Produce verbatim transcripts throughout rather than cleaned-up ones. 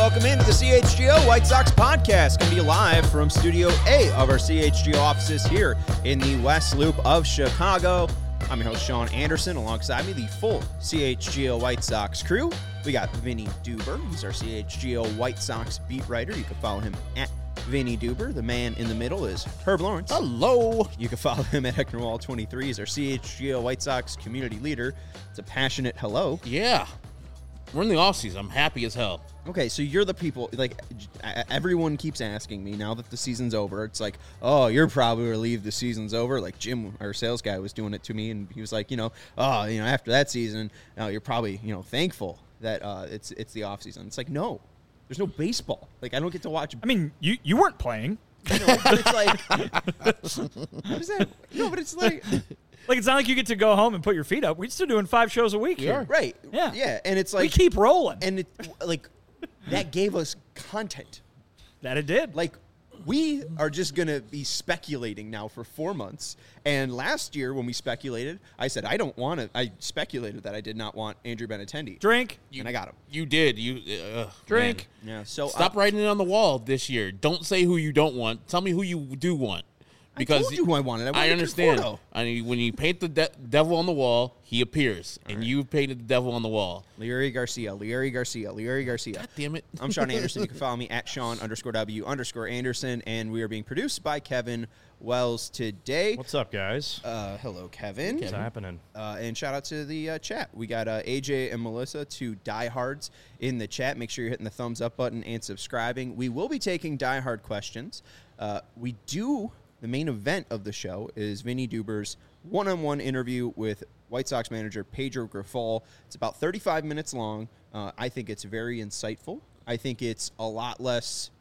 welcome into the C H G O White Sox podcast. Going to be live from Studio A of our C H G O offices here in the West Loop of Chicago. I'm your host, Sean Anderson. Alongside me, the full C H G O White Sox crew. We got Vinny Duber. He's our C H G O White Sox beat writer. You can follow him at Vinny Duber. The man in the middle is Herb Lawrence. Hello. You can follow him at Heckner Wall twenty-three. He's our C H G O White Sox community leader. It's a passionate hello. Yeah. We're in the offseason. I'm happy as hell. Okay, so you're the people, like, everyone keeps asking me now that the season's over. It's like, oh, you're probably relieved the season's over. Like Jim, our sales guy, was doing it to me, and he was like, you know, oh, you know, after that season, uh, you're probably, you know, thankful that uh, it's it's the off season. It's like, no, there's no baseball. Like, I don't get to watch. I mean, you you weren't playing. You know, but it's like, what is that? No, but it's like. Like, it's not like you get to go home and put your feet up. We're still doing five shows a week here. Right. Yeah. Yeah. And it's like. We keep rolling. And, it, like, that gave us content. That it did. Like, we are just going to be speculating now for four months. And last year when we speculated, I said, I don't want to. I speculated that I did not want Andrew Benintendi. Drink. And I got him. You did. You uh, Drink. Man. Yeah. So Stop uh, writing it on the wall this year. Don't say who you don't want. Tell me who you do want. Because I told you who I wanted. I, wanted I understand. Conforto. I mean, when you paint the de- devil on the wall, he appears. All and right. You painted the devil on the wall. Leary Garcia, Leary Garcia, Leary Garcia. God damn it. I'm Sean Anderson. You can follow me at Sean underscore W underscore Anderson. And we are being produced by Kevin Wells today. What's up, guys? Uh, hello, Kevin. What's happening? Uh, and shout out to the uh, chat. We got uh, A J and Melissa, two diehards in the chat. Make sure you're hitting the thumbs up button and subscribing. We will be taking diehard questions. Uh, we do... The main event of the show is Vinny Duber's one-on-one interview with White Sox manager Pedro Grifol. It's about thirty-five minutes long. Uh, I think it's very insightful. I think it's a lot less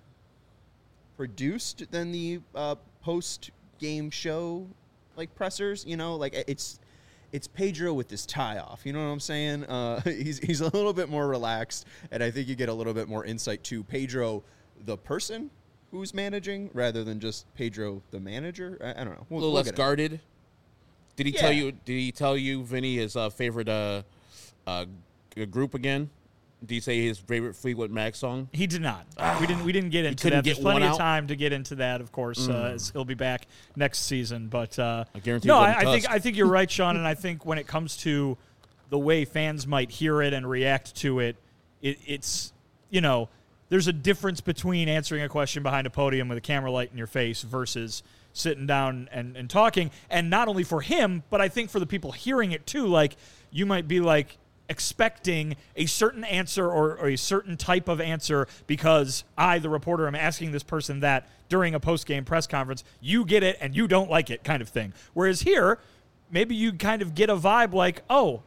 produced than the uh, post-game show, like, pressers. You know, like, it's it's Pedro with his tie off. You know what I'm saying? Uh, he's he's a little bit more relaxed, and I think you get a little bit more insight to Pedro, the person who's managing, rather than just Pedro the manager. I, I don't know. We'll, a little we'll less guarded. Did he yeah. tell you? Did he tell you, Vinny, his uh, favorite uh, uh, group again? Did he say his favorite Fleetwood Mac song? He did not. we didn't. We didn't get into couldn't that. There's get plenty one of out? time to get into that. Of course, Mm. uh, as he'll be back next season. But uh, I guarantee. no, it I, wasn't I think Tusk. I think you're right, Sean. And I think when it comes to the way fans might hear it and react to it, it it's you know. There's a difference between answering a question behind a podium with a camera light in your face versus sitting down and, and talking. And not only for him, but I think for the people hearing it too. Like, you might be like expecting a certain answer or, or a certain type of answer because I, the reporter, am asking this person that during a post-game press conference. You get it and you don't like it, kind of thing. Whereas here, maybe you kind of get a vibe like, oh,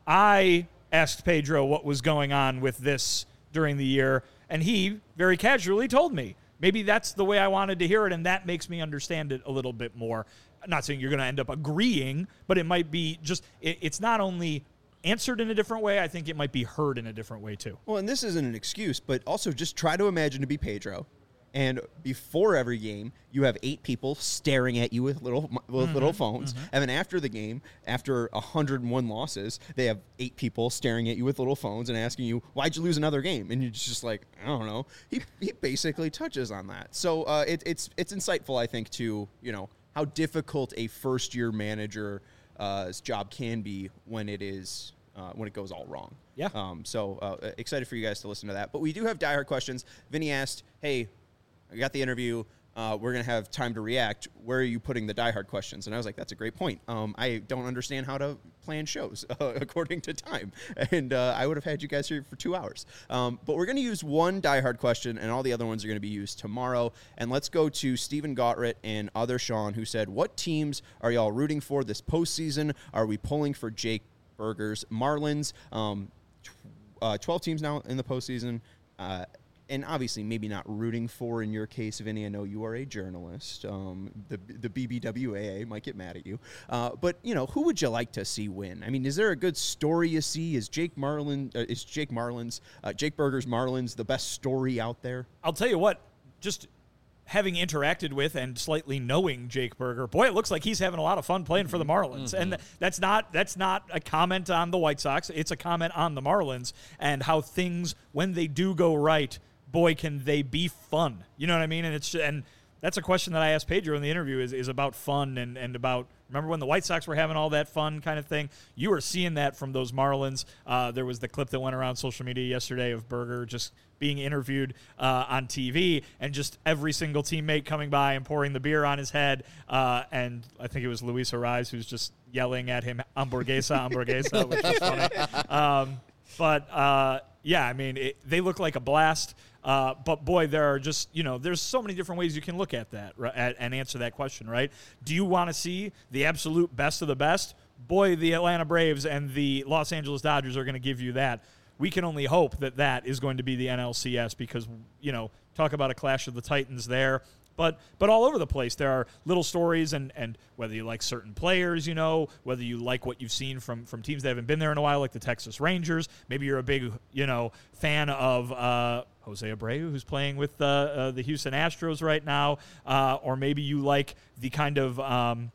I asked Pedro what was going on with this during the year, and he very casually told me. Maybe that's the way I wanted to hear it, and that makes me understand it a little bit more. I'm not saying you're going to end up agreeing, but it might be just it, it's not only answered in a different way, I think it might be heard in a different way too. Well, and this isn't an excuse, but also just try to imagine to be Pedro. And before every game, you have eight people staring at you with little with mm-hmm, little phones. Mm-hmm. And then after the game, after one hundred one losses, they have eight people staring at you with little phones and asking you, why'd you lose another game? And you're just like, I don't know. He he basically touches on that. So uh, it, it's it's insightful, I think, to, you know, how difficult a first-year manager's uh, job can be when it is uh, when it goes all wrong. Yeah. Um. So uh, excited for you guys to listen to that. But we do have diehard questions. Vinny asked, hey, I got the interview. Uh, we're going to have time to react. Where are you putting the diehard questions? And I was like, that's a great point. Um, I don't understand how to plan shows uh, according to time. And uh, I would have had you guys here for two hours. Um, but we're going to use one diehard question, and all the other ones are going to be used tomorrow. And let's go to Stephen Gottritt and Other Sean, who said, what teams are y'all rooting for this postseason? Are we pulling for Jake Burger's Marlins? Um, tw- uh, twelve teams now in the postseason. Uh, And obviously, maybe not rooting for in your case, Vinny. I know you are a journalist. Um, the the B B W A A might get mad at you. Uh, but you know, who would you like to see win? I mean, is there a good story you see? Is Jake Marlin? Uh, is Jake Marlins, uh, Jake Burger's Marlins, the best story out there? I'll tell you what. Just having interacted with and slightly knowing Jake Burger, boy, it looks like he's having a lot of fun playing for the Marlins. Mm-hmm. And that's not that's not a comment on the White Sox. It's a comment on the Marlins and how things, when they do go right, boy, can they be fun? You know what I mean? And it's and that's a question that I asked Pedro in the interview is, is about fun and, and about, remember when the White Sox were having all that fun kind of thing? You were seeing that from those Marlins. Uh, there was the clip that went around social media yesterday of Berger just being interviewed uh, on T V and just every single teammate coming by and pouring the beer on his head. Uh, and I think it was Luis Ariz who's just yelling at him, hamburguesa, hamburguesa, which was funny. Um, but, uh, yeah, I mean, it, they look like a blast. Uh, but, boy, there are just, you know, there's so many different ways you can look at that right, and answer that question, right? Do you want to see the absolute best of the best? Boy, the Atlanta Braves and the Los Angeles Dodgers are going to give you that. We can only hope that that is going to be the N L C S because, you know, talk about a clash of the Titans there. But but all over the place, there are little stories, and, and whether you like certain players, you know, whether you like what you've seen from, from teams that haven't been there in a while, like the Texas Rangers. Maybe you're a big, you know, fan of uh, Jose Abreu, who's playing with uh, uh, the Houston Astros right now. Uh, or maybe you like the kind of um,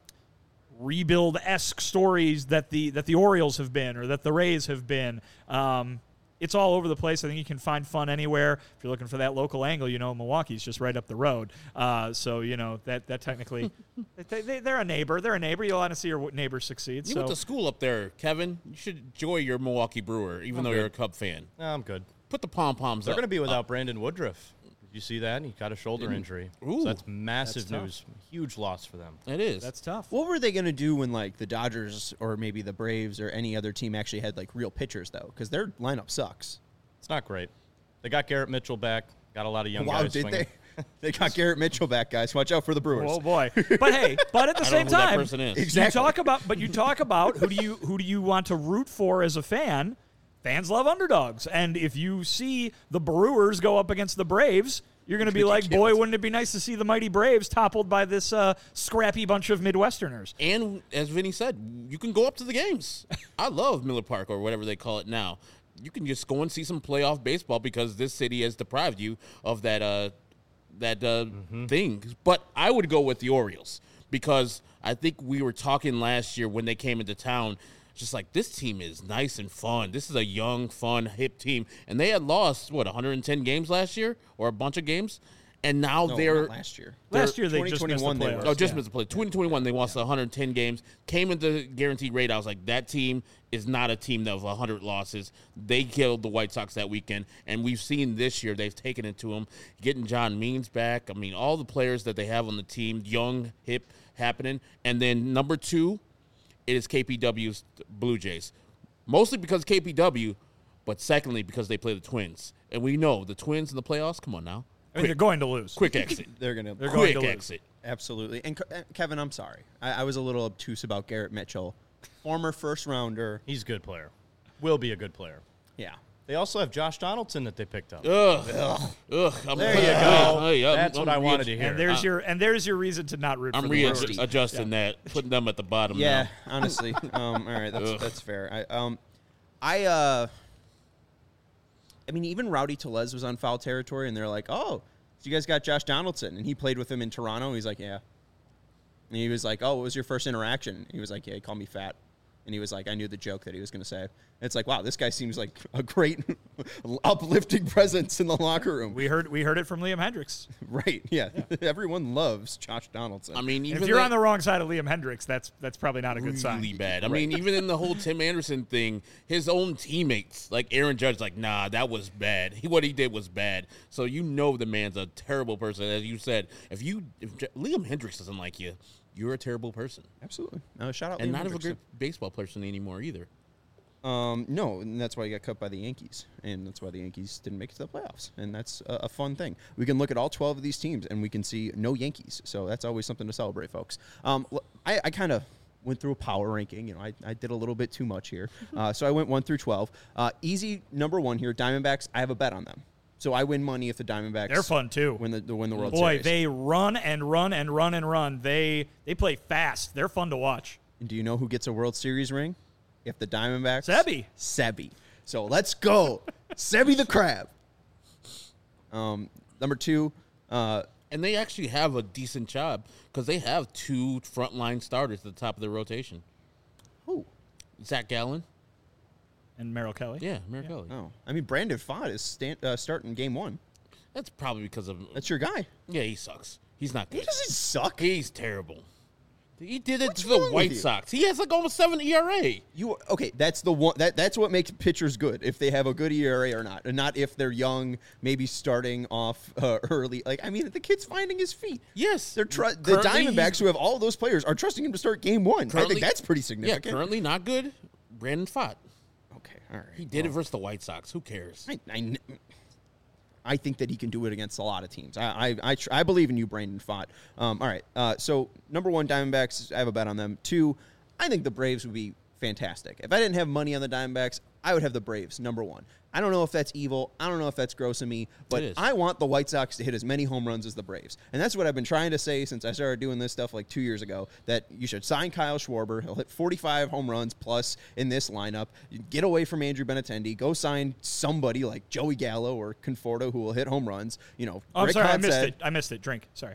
rebuild-esque stories that the, that the Orioles have been or that the Rays have been. Um It's all over the place. I think you can find fun anywhere. If you're looking for that local angle, you know, Milwaukee's just right up the road. Uh, so, you know, that that technically, they, they, they're a neighbor. They're a neighbor. You want to see your neighbor succeed. You so. went to school up there, Kevin. You should enjoy your Milwaukee Brewer, even I'm though good. you're a Cub fan. No, I'm good. Put the pom-poms They're up. going to be without up. Brandon Woodruff. Did you see that? He got a shoulder Didn't- injury. Ooh. So that's massive That's tough. news. Huge loss for them. It is. That's tough. What were they going to do when, like, the Dodgers or maybe the Braves or any other team actually had, like, real pitchers, though? Because their lineup sucks. It's not great. They got Garrett Mitchell back. Got a lot of young Wow, guys did swinging. they? They got Garrett Mitchell back, guys. Watch out for the Brewers. Oh boy! But hey, but at the I same don't know who that time, person is. Exactly. you talk about, but you talk about who do you who do you want to root for as a fan? Fans love underdogs, and if you see the Brewers go up against the Braves, you're going to be like, boy, wouldn't it be nice to see the mighty Braves toppled by this uh, scrappy bunch of Midwesterners? And as Vinny said, you can go up to the games. I love Miller Park or whatever they call it now. You can just go and see some playoff baseball because this city has deprived you of that uh, that uh, Mm-hmm. thing. But I would go with the Orioles because I think we were talking last year when they came into town, just like this team is nice and fun. This is a young, fun, hip team. And they had lost, what, one hundred ten games last year or a bunch of games? And now No, they're not last year. Last year they just missed the twenty twenty-one they playoffs. were- Oh, just Yeah. missed the play. twenty twenty-one, they lost one hundred ten games. Came into guaranteed rate. I was like, that team is not a team that of one hundred losses. They killed the White Sox that weekend. And we've seen this year, they've taken it to them. Getting John Means back. I mean, all the players that they have on the team, young, hip, happening. And then number two, it is K P W's Blue Jays. Mostly because K P W, but secondly because they play the Twins. And we know the Twins in the playoffs, come on now. I mean, they're going to lose. Quick exit. They're going to They're going Quick to lose. exit. absolutely. And Ke- uh, Kevin, I'm sorry. I, I was a little obtuse about Garrett Mitchell, former first rounder. He's a good player. Will be a good player. Yeah. They also have Josh Donaldson that they picked up. Ugh. Ugh. I'm, There you go. Hey, I'm- That's I'm what I wanted readj- to hear. And there's Uh, your and there's your reason to not root I'm for the Brewers. readjusting that, putting them at the bottom Yeah, now. honestly. Um, all right, that's Ugh. that's fair. I um, I uh, I mean, even Rowdy Tellez was on foul territory, and they're like, "Oh, so you guys got Josh Donaldson," and he played with him in Toronto. He's like, "Yeah," and he was like, "Oh, what was your first interaction?" And he was like, "Yeah, he called me fat," and he was like, "I knew the joke that he was going to say." And it's like, wow, this guy seems like a great uplifting presence in the locker room. We heard we heard it from Liam Hendricks. Right? Yeah, everyone loves Josh Donaldson. I mean, And even if you're that- on the wrong side of Liam Hendricks, that's that's probably not a good sign. really bad. I mean, even in the whole Tim Anderson thing, his own teammates, like Aaron Judge, like, nah, that was bad. He, what he did was bad. So you know the man's a terrible person. As you said, if you if J- Liam Hendricks doesn't like you, you're a terrible person. absolutely. No, shout out And Liam not a Hendricks. good baseball person anymore either. Um, no, and that's why he got cut by the Yankees, and that's why the Yankees didn't make it to the playoffs, and that's a, a fun thing. We can look at all twelve of these teams, and we can see no Yankees, so that's always something to celebrate, folks. Um, l- I, I kind of went through a power ranking. You know, I, I did a little bit too much here, uh, so I went one through twelve. Uh, easy number one here, Diamondbacks. I have a bet on them, so I win money if the Diamondbacks. They're fun too. Win the, the win the World Boy, Series. they run and run and run and run. They they play fast. They're fun to watch. And do you know who gets a World Series ring? If the Diamondbacks. Sebi. Sebi. So let's go. Sebi the Crab. Um, number two, uh, And they actually have a decent job because they have two frontline starters at the top of their rotation. who? Zach Gallen. And Merrill Kelly. Yeah, Merrill Kelly. Oh, I mean, Brandon Pfaadt is stand, uh, starting game one. That's probably because of That's your guy. yeah. He sucks. He's not He good. doesn't suck. He's terrible. He did it What's to the wrong with White you? Sox. He has like almost seven E R A. You okay? That's the one. That that's what makes pitchers good. If they have a good E R A or not, and not if they're young, maybe starting off uh, early. Like I mean, the kid's finding his feet. Yes, They're tr- the Currently, Diamondbacks, he's- who have all those players, are trusting him to start game one. I Currently- think that's pretty Yeah, significant. currently not good. Brandon Pfaadt. Okay, all right. He did it versus the White Sox. Who cares? I, I, kn- I think that he can do it against a lot of teams. I I, I, tr- I believe in you, Brandon Pfaadt. Um, all right. Uh, so number one, Diamondbacks. I have a bet on them. Two, I think the Braves would be fantastic. If I didn't have money on the Diamondbacks, I would have the Braves, number one. I don't know if that's evil. I don't know if that's gross of me, but It is. I want the White Sox to hit as many home runs as the Braves. And that's what I've been trying to say since I started doing this stuff like two years ago, that you should sign Kyle Schwarber. He'll hit forty-five home runs plus in this lineup. You get away from Andrew Benintendi. Go sign somebody like Joey Gallo or Conforto who will hit home runs. You know, Oh, I'm Rick sorry, I Hahn missed said, it. I missed it. Drink. Sorry.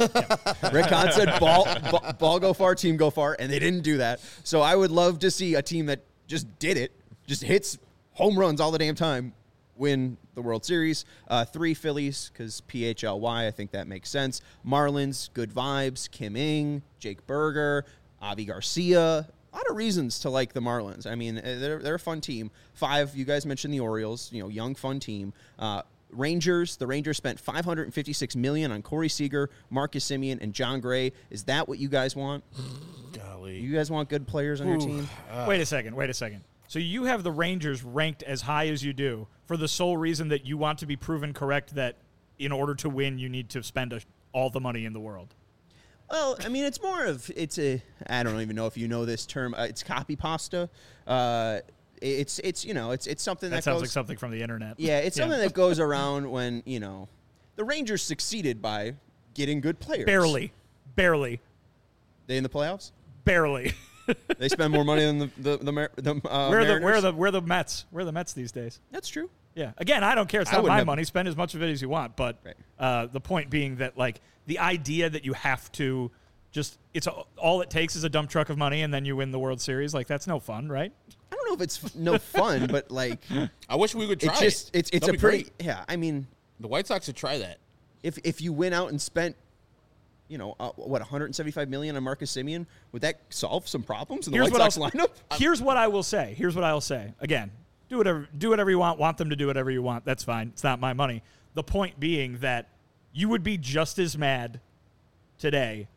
Rick Hahn said ball, ball, ball go far, team go far, and they didn't do that. So I would love to see a team that just did it, just hits home runs all the damn time, win the World Series. Uh, three Phillies, because P H L Y, I think that makes sense. Marlins, good vibes. Kim Ng, Jake Berger, Avi Garcia. A lot of reasons to like the Marlins. I mean, they're, they're a fun team. Five, you guys mentioned the Orioles, you know, young, fun team. Uh, Rangers, the Rangers spent five hundred fifty-six million dollars on Corey Seager, Marcus Semien, and John Gray. Is that what you guys want? Golly. You guys want good players on your team? wait a second. Wait a second. So you have the Rangers ranked as high as you do for the sole reason that you want to be proven correct that in order to win, you need to spend a, all the money in the world. Well, I mean, it's more of it's a. I don't even know if you know this term. Uh, it's copy pasta. Uh, it's it's you know it's it's something that, That sounds goes, like something from the internet. Yeah, it's something that goes around when you know the Rangers succeeded by getting good players. barely, barely, They in the playoffs. barely. They spend more money than the the the, Mar- the uh, where are the Mariners. where are the where are the Mets? Where are the Mets these days? That's true. Yeah. Again, I don't care. It's I not wouldn't my have- money. Spend as much of it as you want. But Right. uh, the point being that, like, the idea that you have to just, it's a, all it takes is a dump truck of money and then you win the World Series. Like, that's no fun, right? I don't know if it's f- no fun, but like I wish we would try it's just it. it's it's That'd a be pretty great. yeah. I mean, The White Sox should try that. if if you went out and spent, you know, uh, what one hundred seventy-five million dollars on Marcus Semien, would that solve some problems in the Here's White what Sox I'll- lineup? Here's what I will say. Here's what I'll say. Again, do whatever do whatever you want. Want them to do whatever you want. That's fine. It's not my money. The point being that you would be just as mad today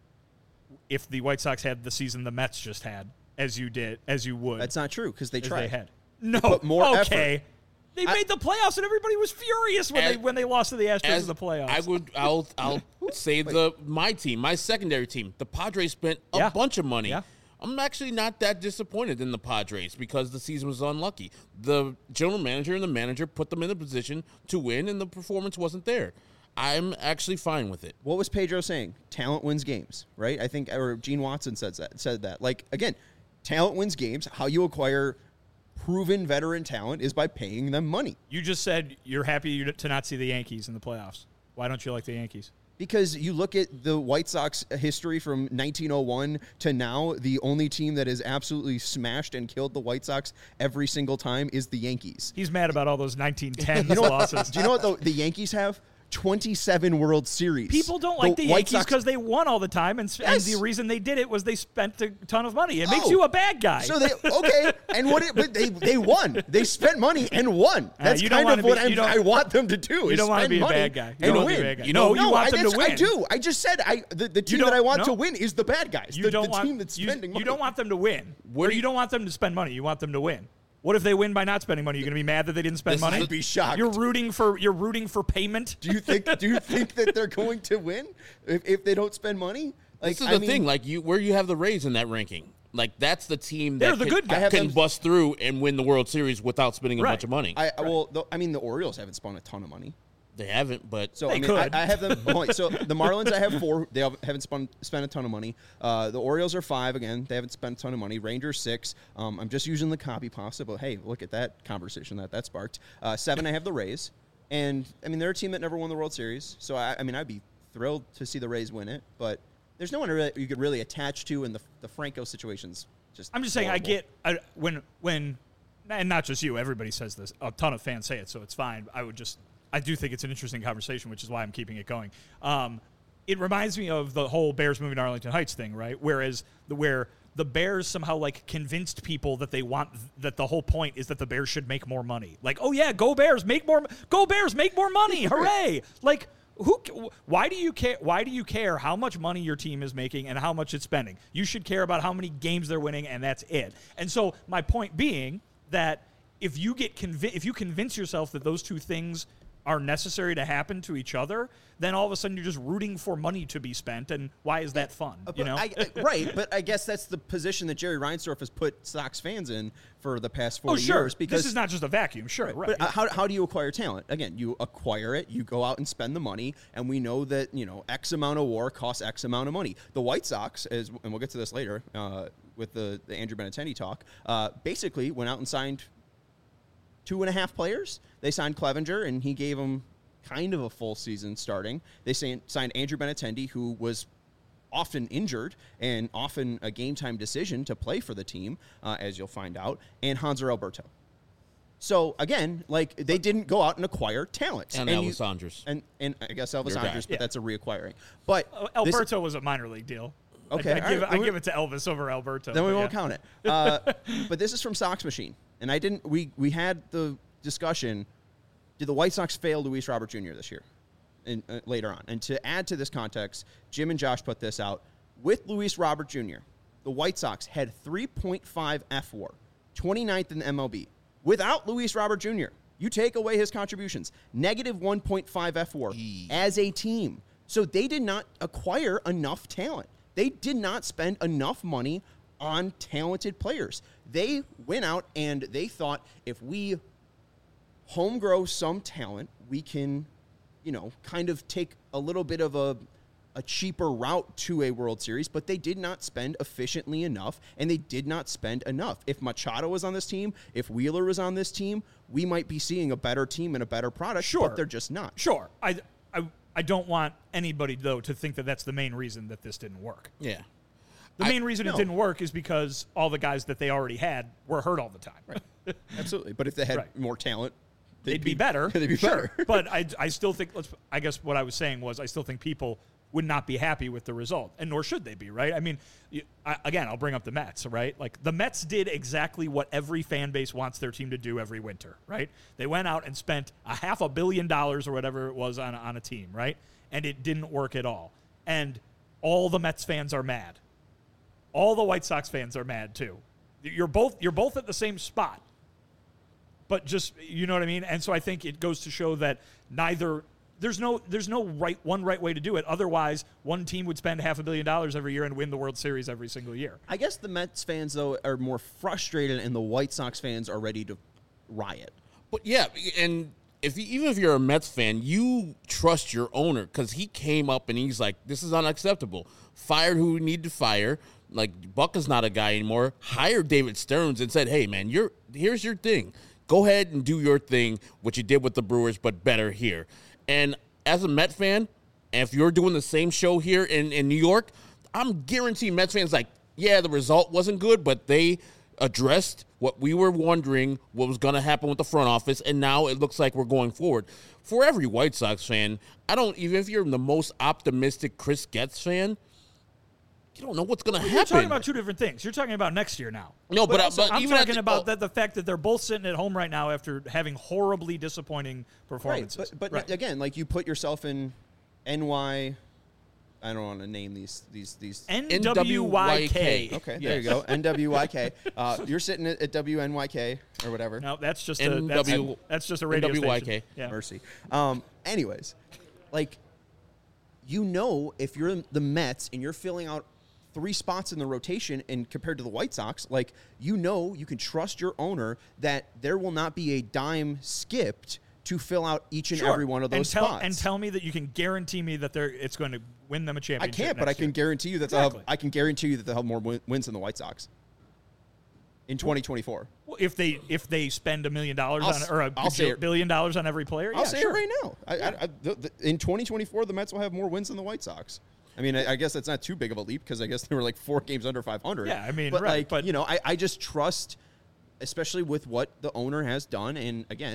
if the White Sox had the season the Mets just had as you did, as you would. That's not true because they as tried. they had. No, put more okay. effort. They I- made the playoffs and everybody was furious when As- they when they lost to the Astros As in the playoffs. I would, I'll, I'll say the my team, my secondary team. The Padres spent a Yeah. bunch of money. Yeah. I'm actually not that disappointed in the Padres because the season was unlucky. The general manager and the manager put them in a position to win, and the performance wasn't there. I'm actually fine with it. What was Pedro saying? Talent wins games, right? I think, or Gene Watson says that. Said that. Like again, talent wins games. How you acquire proven veteran talent is by paying them money. You just said you're happy you- to not see the Yankees in the playoffs. Why don't you like the Yankees? Because you look at the White Sox history from nineteen oh one to now, the only team that has absolutely smashed and killed the White Sox every single time is the Yankees. He's mad about all those nineteen ten You know what, losses. do you know what the, the Yankees have? twenty-seven World Series. People don't like the, White Yankees Sox- because they won all the time, and, s- Yes. and the reason they did it was they spent a ton of money. It makes Oh. you a bad guy. So they okay, and what? It, but they they won. They spent money and won. That's you don't kind wanna of what be- I'm, you don't- I want them to do. you is don't wanna spend be a money bad guy. You and don't wanna win. be a bad guy. You No, know- you want I, them to that's- I win. do. I just said I the, the team don't- that I want no. to win is the bad guys. You the, don't the want team that's you, spending you money. don't want them to win. Where Or do you you- don't want them to spend money. You want them to win. What if they win by not spending money? You're going to be mad that they didn't spend This is money? the- I'd be shocked. You're rooting for you're rooting for payment. do you think? Do you think that they're going to win if, if they don't spend money? Like This is I the mean, thing, like you, where you have the Rays in that ranking. Like that's the team They're that the can, good guys. I have can them- bust through and win the World Series without spending a Right. bunch of money. I well, the, I mean, the Orioles haven't spent a ton of money. they haven't, but So They I mean, could. I, I have them. oh, wait, so the Marlins, I have four. They have- haven't spent spent a ton of money. Uh, the Orioles are five again. They haven't spent a ton of money. Rangers six. Um, I'm just using the copy pasta, but hey, look at that conversation that that sparked. Uh, seven, I have the Rays, and I mean they're a team that never won the World Series. So I, I mean, I'd be thrilled to see the Rays win it, but there's no one really, you could really attach to, in the the Franco situations. Just I'm just saying, I horrible. get I, when when, and not just you. Everybody says this. A ton of fans say it, so it's fine. I would just I do think it's an interesting conversation, which is why I'm keeping it going. Um, it reminds me of the whole Bears moving to Arlington Heights thing, right? Whereas the where the Bears somehow like convinced people that they want that the whole point is that the Bears should make more money. Like, oh yeah, go Bears, make more, go Bears, make more money, hooray! Like, who? Why do you care? Why do you care how much money your team is making and how much it's spending? You should care about how many games they're winning, and that's it. And so my point being that if you get convi- if you convince yourself that those two things are necessary to happen to each other, then all of a sudden you're just rooting for money to be spent, and why is that fun? But You know, I, I, right? But I guess that's the position that Jerry Reinsdorf has put Sox fans in for the past forty oh sure, years. Because this is not just a vacuum, sure, right? But uh, how, how do you acquire talent? Again, you acquire it, you go out and spend the money, and we know that, you know, X amount of war costs X amount of money. The White Sox, as, and we'll get to this later uh, with the, the Andrew Benintendi talk, uh, basically went out and signed two and a half players. They signed Clevenger, and he gave them kind of a full season starting. They signed Andrew Benintendi, who was often injured and often a game-time decision to play for the team, uh, as you'll find out, and Hanser Alberto. So, again, like, they didn't go out and acquire talent. And, and Elvis you, Andres. And, and I guess Elvis Your guy. Andres, but Yeah. that's a reacquiring. But Uh, Alberto was a minor league deal. Okay, I, I, all give, right. I give it to Elvis over Alberto. then we but won't yeah. count it. Uh, but this is from Sox Machine. And I didn't, we, we had the discussion, did the White Sox fail Luis Robert Junior this year? And, uh, later on. And to add to this context, Jim and Josh put this out. With Luis Robert Junior, the White Sox had three point five F W A R, twenty-ninth in the M L B. Without Luis Robert Junior, you take away his contributions, negative one point five F W A R Eee. as a team. So they did not acquire enough talent. They did not spend enough money on talented players. They went out and they thought, if we home grow some talent, we can, you know, kind of take a little bit of a, a cheaper route to a World Series, but they did not spend efficiently enough, and they did not spend enough. If Machado was on this team, if Wheeler was on this team, we might be seeing a better team and a better product, Sure. but they're just not. Sure. I, I, I don't want anybody, though, to think that that's the main reason that this didn't work. Yeah. The I- main reason no. it didn't work is because all the guys that they already had were hurt all the time. Right. Absolutely. But if they had Right. more talent, They'd be better. They'd be Sure. better. But I, I still think, let's, I guess what I was saying was I still think people would not be happy with the result, and nor should they be, right? I mean, you, I, again, I'll bring up the Mets, right? Like, the Mets did exactly what every fan base wants their team to do every winter, right? They went out and spent a half a billion dollars or whatever it was on, on a team, right? And it didn't work at all. And all the Mets fans are mad. All the White Sox fans are mad, too. You're both you're both at the same spot. But just, you know what I mean? And so I think it goes to show that neither there's no there's no right one right way to do it. Otherwise, one team would spend half a billion dollars every year and win the World Series every single year. I guess the Mets fans, though, are more frustrated, and the White Sox fans are ready to riot. But yeah, and if you, even if you're a Mets fan, you trust your owner because he came up and he's like, "This is unacceptable." Fired who we need to fire. Like, Buck is not a guy anymore. Hired David Stearns and said, "Hey, man, you're here's your thing. Go ahead and do your thing, what you did with the Brewers, but better here." And as a Met fan, if you're doing the same show here in, in New York, I'm guaranteeing Mets fans like, yeah, the result wasn't good, but they addressed what we were wondering what was going to happen with the front office, and now it looks like we're going forward. For every White Sox fan, I don't, even if you're the most optimistic Chris Getz fan, you don't know what's going to You're happen. talking about two different things. You're talking about next year now. No, but, also, but I'm even at talking the- about oh, that the fact that they're both sitting at home right now after having horribly disappointing performances. Right, but, but Right. again, like, you put yourself in N Y. I don't want to name these these these. N W Y K. Okay, Yes. there you go. N W Y K. Uh, you're sitting at, at W N Y K or whatever. No, that's just a that's, N W that's just a radio N W Y K. station. Yeah. Mercy. Um, anyways, like, you know, if you're the Mets and you're filling out three spots in the rotation, and compared to the White Sox, like, you know, you can trust your owner that there will not be a dime skipped to fill out each and Sure. every one of those and tell, spots. And tell me that you can guarantee me that they're it's going to win them a I championship. can't, but I next can year. guarantee you that they'll have, Exactly. I can guarantee you that they'll have more win- wins than the White Sox in twenty twenty-four. Well, if they if they spend a million dollars I'll on s- or a I'll say bajil- it. billion dollars on every player, I'll yeah, say sure. it right now. I, I, I, the, the, in twenty twenty-four, the Mets will have more wins than the White Sox. I mean, I, I guess that's not too big of a leap because I guess they were like four games under five hundred. Yeah, I mean, but right, like, but- you know, I, I just trust, especially with what the owner has done. And again,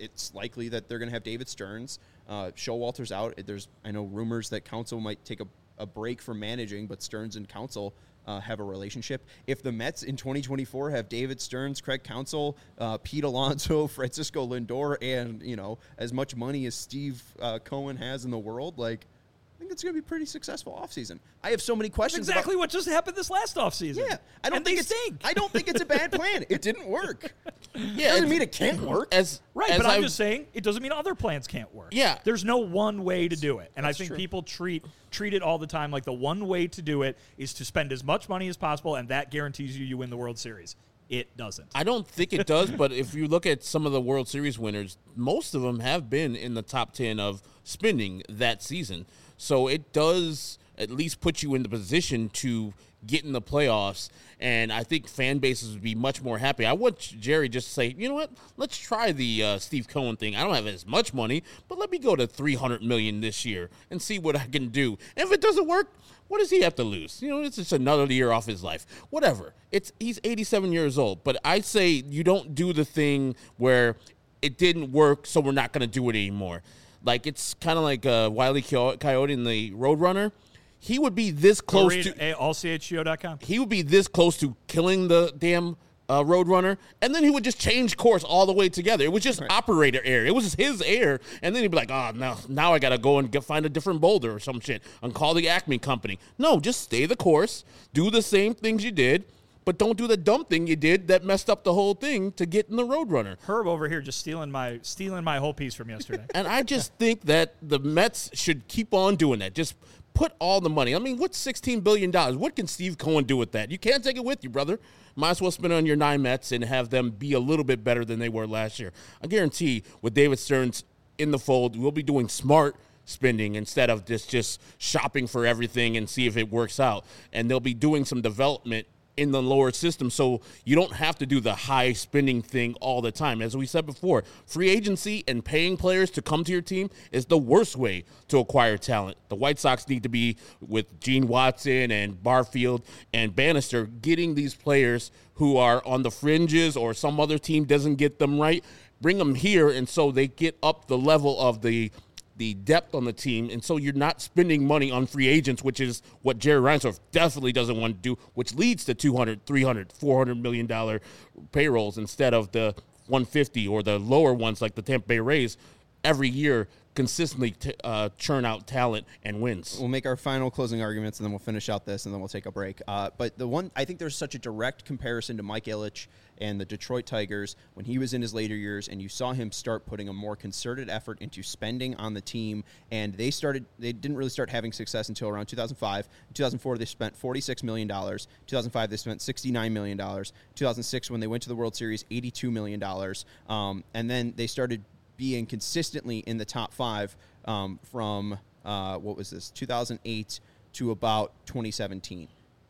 it's likely that they're going to have David Stearns. Uh, Showalter's out. There's I know rumors that Counsell might take a, a break from managing, but Stearns and Counsell uh, have a relationship. If the Mets in twenty twenty-four have David Stearns, Craig Counsell, uh, Pete Alonso, Francisco Lindor, and you know as much money as Steve uh, Cohen has in the world, like. I think it's going to be a pretty successful offseason. I have so many questions. That's exactly about, what just happened this last offseason. Yeah, I don't and think they it's. stink. I don't think it's a bad plan. It didn't work. Yeah, doesn't mean it can't work. As Right, as but I'm I've- just saying it doesn't mean other plans can't work. Yeah. There's no one way to do it. And I That's think true. people treat treat it all the time like the one way to do it is to spend as much money as possible, and that guarantees you you win the World Series. It doesn't. I don't think it does, but if you look at some of the World Series winners, most of them have been in the top ten of spending that season. So it does at least put you in the position to get in the playoffs, and I think fan bases would be much more happy. I want Jerry just to say, you know what, let's try the uh, Steve Cohen thing. I don't have as much money, but let me go to three hundred million dollars this year and see what I can do. And if it doesn't work, what does he have to lose? You know, it's just another year off his life. Whatever. It's he's eighty-seven years old, but I say you don't do the thing where it didn't work, so we're not going to do it anymore. Like, it's kind of like uh, Wile E. Coyote in the Roadrunner. He would be this Go close read to all C H G O dot com. he would be this close to killing the damn uh, Roadrunner, and then he would just change course all the way together. It was just operator error. It was his error, and then he'd be like, oh, no, now I got to go and get, find a different boulder or some shit and call the Acme company. No, just stay the course, do the same things you did, but don't do the dumb thing you did that messed up the whole thing to get in the Roadrunner. Herb over here just stealing my stealing my whole piece from yesterday. And I just think that the Mets should keep on doing that. Just put all the money. I mean, what's sixteen billion dollars? What can Steve Cohen do with that? You can't take it with you, brother. Might as well spend it on your nine Mets and have them be a little bit better than they were last year. I guarantee with David Stearns in the fold, we'll be doing smart spending instead of just, just shopping for everything and see if it works out. And they'll be doing some development in the lower system, so you don't have to do the high spending thing all the time. As we said before, free agency and paying players to come to your team is the worst way to acquire talent. The White Sox need to be, with Gene Watson and Barfield and Bannister, getting these players who are on the fringes or some other team doesn't get them right, bring them here, and so they get up the level of the the depth on the team, and so you're not spending money on free agents, which is what Jerry Reinsdorf definitely doesn't want to do, which leads to two hundred, three hundred, four hundred million dollars payrolls instead of the one fifty or the lower ones like the Tampa Bay Rays every year consistently t- uh, churn out talent and wins. We'll make our final closing arguments, and then we'll finish out this, and then we'll take a break. Uh, but the one, I think there's such a direct comparison to Mike Ilitch and the Detroit Tigers when he was in his later years, and you saw him start putting a more concerted effort into spending on the team, and they started, they didn't really start having success until around two thousand five. In two thousand four, they spent forty-six million dollars. two thousand five, they spent sixty-nine million dollars. two thousand six, when they went to the World Series, eighty-two million dollars. Um, and then they started being consistently in the top five um, from, uh, what was this, two thousand eight to about twenty seventeen.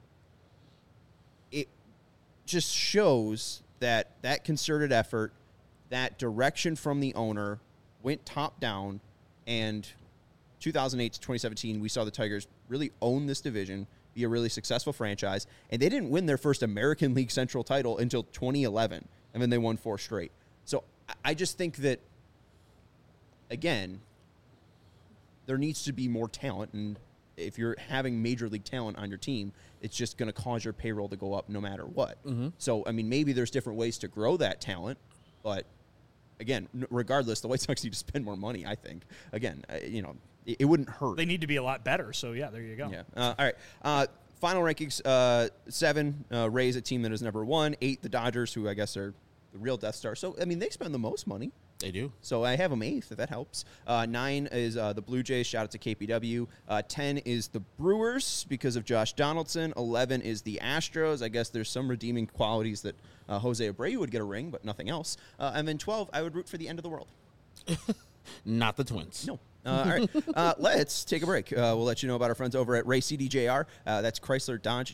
It just shows that that concerted effort, that direction from the owner went top down, and two thousand eight to twenty seventeen, we saw the Tigers really own this division, be a really successful franchise, and they didn't win their first American League Central title until twenty eleven, and then they won four straight. So I just think that, again, there needs to be more talent, and if you're having major league talent on your team, it's just going to cause your payroll to go up no matter what. Mm-hmm. So, I mean, maybe there's different ways to grow that talent, but again, regardless, the White Sox need to spend more money, I think. Again, uh, you know, it, it wouldn't hurt. They need to be a lot better, so yeah, there you go. Yeah. Uh, all right. Uh, final rankings, uh, seven, uh, Rays, a team that has never won. Eight, the Dodgers, who I guess are the real Death Star. So, I mean, they spend the most money. They do. So I have them eighth, if that helps. Uh, nine is uh, the Blue Jays. Shout out to K P W. Uh, ten is the Brewers because of Josh Donaldson. eleven is the Astros. I guess there's some redeeming qualities that uh, Jose Abreu would get a ring, but nothing else. Uh, and then twelve, I would root for the end of the world. Not the Twins. No. Uh, all right. Uh, let's take a break. Uh, we'll let you know about our friends over at Ray C D J R. Uh, that's Chrysler, Dodge, Jeep,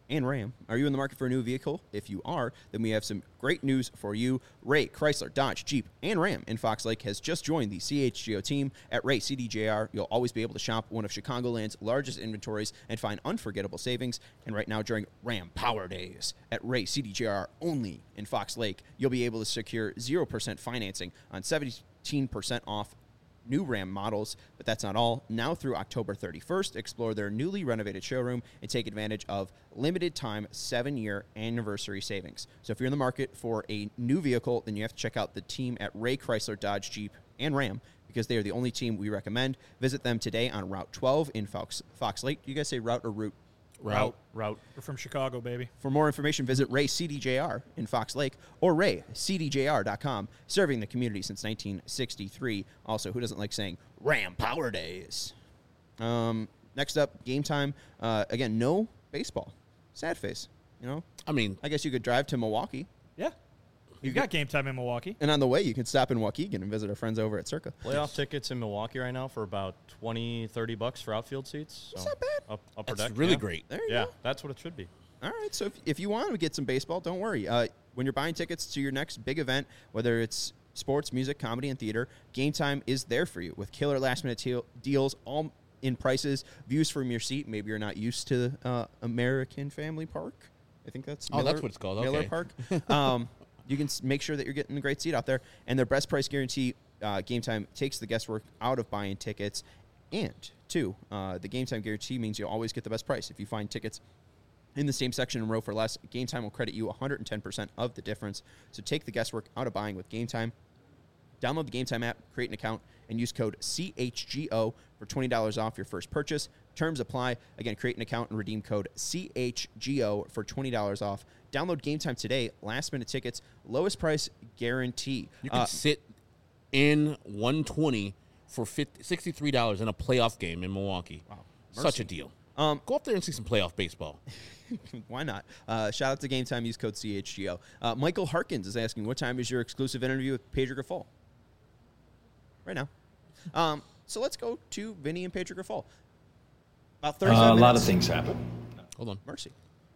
and Ram. Are you in the market for a new vehicle? If you are, then we have some great news for you. Ray, Chrysler, Dodge, Jeep, and Ram in Fox Lake has just joined the C H G O team. At Ray C D J R, you'll always be able to shop one of Chicagoland's largest inventories and find unforgettable savings. And right now, during Ram Power Days at Ray C D J R only in Fox Lake, you'll be able to secure zero percent financing on seventeen percent off new Ram models, but that's not all. Now through October thirty-first, explore their newly renovated showroom and take advantage of limited time seven-year anniversary savings. So if you're in the market for a new vehicle, then you have to check out the team at Ray Chrysler, Dodge, Jeep, and Ram because they are the only team we recommend. Visit them today on Route twelve in Fox, Fox Lake. Do you guys say route or route? Route. Route. We're from Chicago, baby. For more information, visit Ray C D J R in Fox Lake or ray c d j r dot com, serving the community since nineteen sixty-three. Also, who doesn't like saying Ram Power Days? Um, next up, game time. Uh, again, no baseball. Sad face, you know? I mean, I guess you could drive to Milwaukee, Yeah. You've got game time in Milwaukee. and on the way, you can stop in Waukegan and visit our friends over at Circa. Playoff tickets in Milwaukee right now for about twenty, thirty bucks for outfield seats. So That's not bad. Up, upper that's deck. really yeah. great. There you Yeah, go. that's what it should be. All right, so if, if you want to get some baseball, don't worry. Uh, when you're buying tickets to your next big event, whether it's sports, music, comedy, and theater, Game Time is there for you with killer last-minute te- deals, all in prices, views from your seat. Maybe you're not used to uh, American Family Park. I think that's Oh, that's what it's called. Miller Okay. Park. Um, you can s- make sure that you're getting a great seat out there. And their best price guarantee, uh, Game Time takes the guesswork out of buying tickets. And, two, uh, the Game Time guarantee means you'll always get the best price. If you find tickets in the same section and row for less, Game Time will credit you one hundred ten percent of the difference. So take the guesswork out of buying with Game Time. Download the Game Time app, create an account, and use code C H G O for twenty dollars off your first purchase. Terms apply. Again, create an account and redeem code C H G O for twenty dollars off. Download Game Time today. Last-minute tickets, lowest price guarantee. You can Uh, sit in one twenty for fifty, sixty-three dollars in a playoff game in Milwaukee. Wow. Such a deal. Um, Go up there and see some playoff baseball. Why not? Uh, shout out to Game Time. Use code C H G O. Uh, Michael Harkins is asking, what time is your exclusive interview with Pedro Grifol? Right now. Um, so let's go to Vinny and Pedro Grifol. About thirty-five Uh, a minutes. lot of things happen. Hold on. Mercy.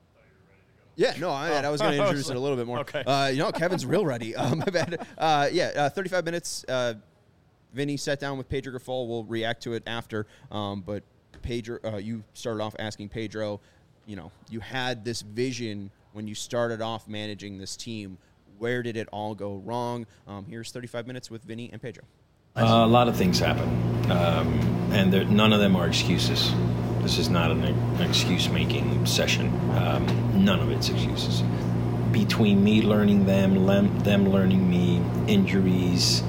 Yeah, no, I, I was going to introduce it a little bit more. Okay. Uh, you know, Kevin's real ready. Um, my bad. Uh, yeah, uh, thirty-five minutes. Uh, Vinny sat down with Pedro Grifol. We'll react to it after. Um, but Pedro, uh, you started off asking Pedro, you know, you had this vision when you started off managing this team. Where did it all go wrong? Um, here's thirty-five minutes with Vinny and Pedro. Uh, a lot of things happen, um, and there- none of them are excuses. This is not an, an excuse-making session. Um, none of it's excuses. Between me learning them, lem- them learning me, injuries,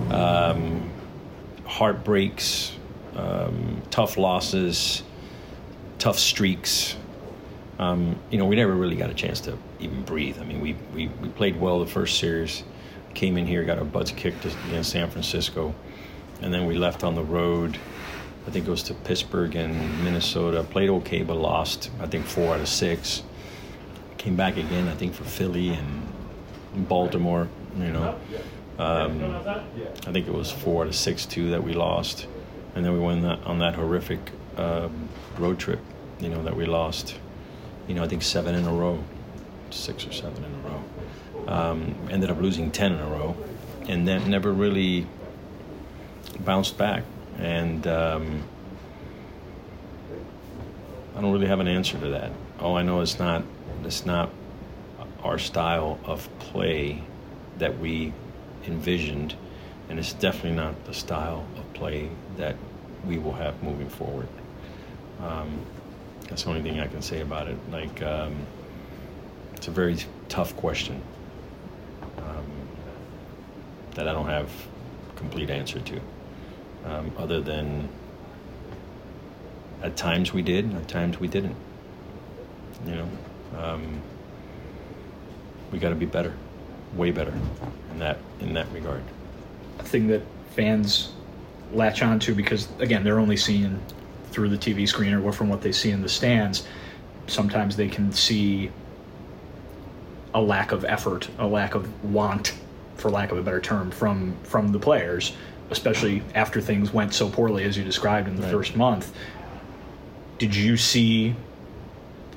um, heartbreaks, um, tough losses, tough streaks. Um, you know, we never really got a chance to even breathe. I mean, we, we, we played well the first series, came in here, got our butts kicked against San Francisco, and then we left on the road. I think it was to Pittsburgh and Minnesota. Played okay, but lost, I think, four out of six. Came back again, I think, for Philly and Baltimore, you know. Um, I think it was four out of six, too, that we lost. And then we went that, on that horrific uh, road trip, you know, that we lost. You know, I think seven in a row, six or seven in a row. Um, ended up losing ten in a row, and then never really bounced back. And um, I don't really have an answer to that. All I know is not it's not our style of play that we envisioned, and it's definitely not the style of play that we will have moving forward. Um, that's the only thing I can say about it. Like, um, it's a very tough question um, that I don't have a complete answer to. Um, other than at times we did, at times we didn't. You know, um, we got to be better, way better in that in that regard. Thing that fans latch on to because, again, they're only seeing through the T V screen or from what they see in the stands. Sometimes they can see a lack of effort, a lack of want, for lack of a better term, from from the players, especially after things went so poorly as you described in the Right. first month. Did you see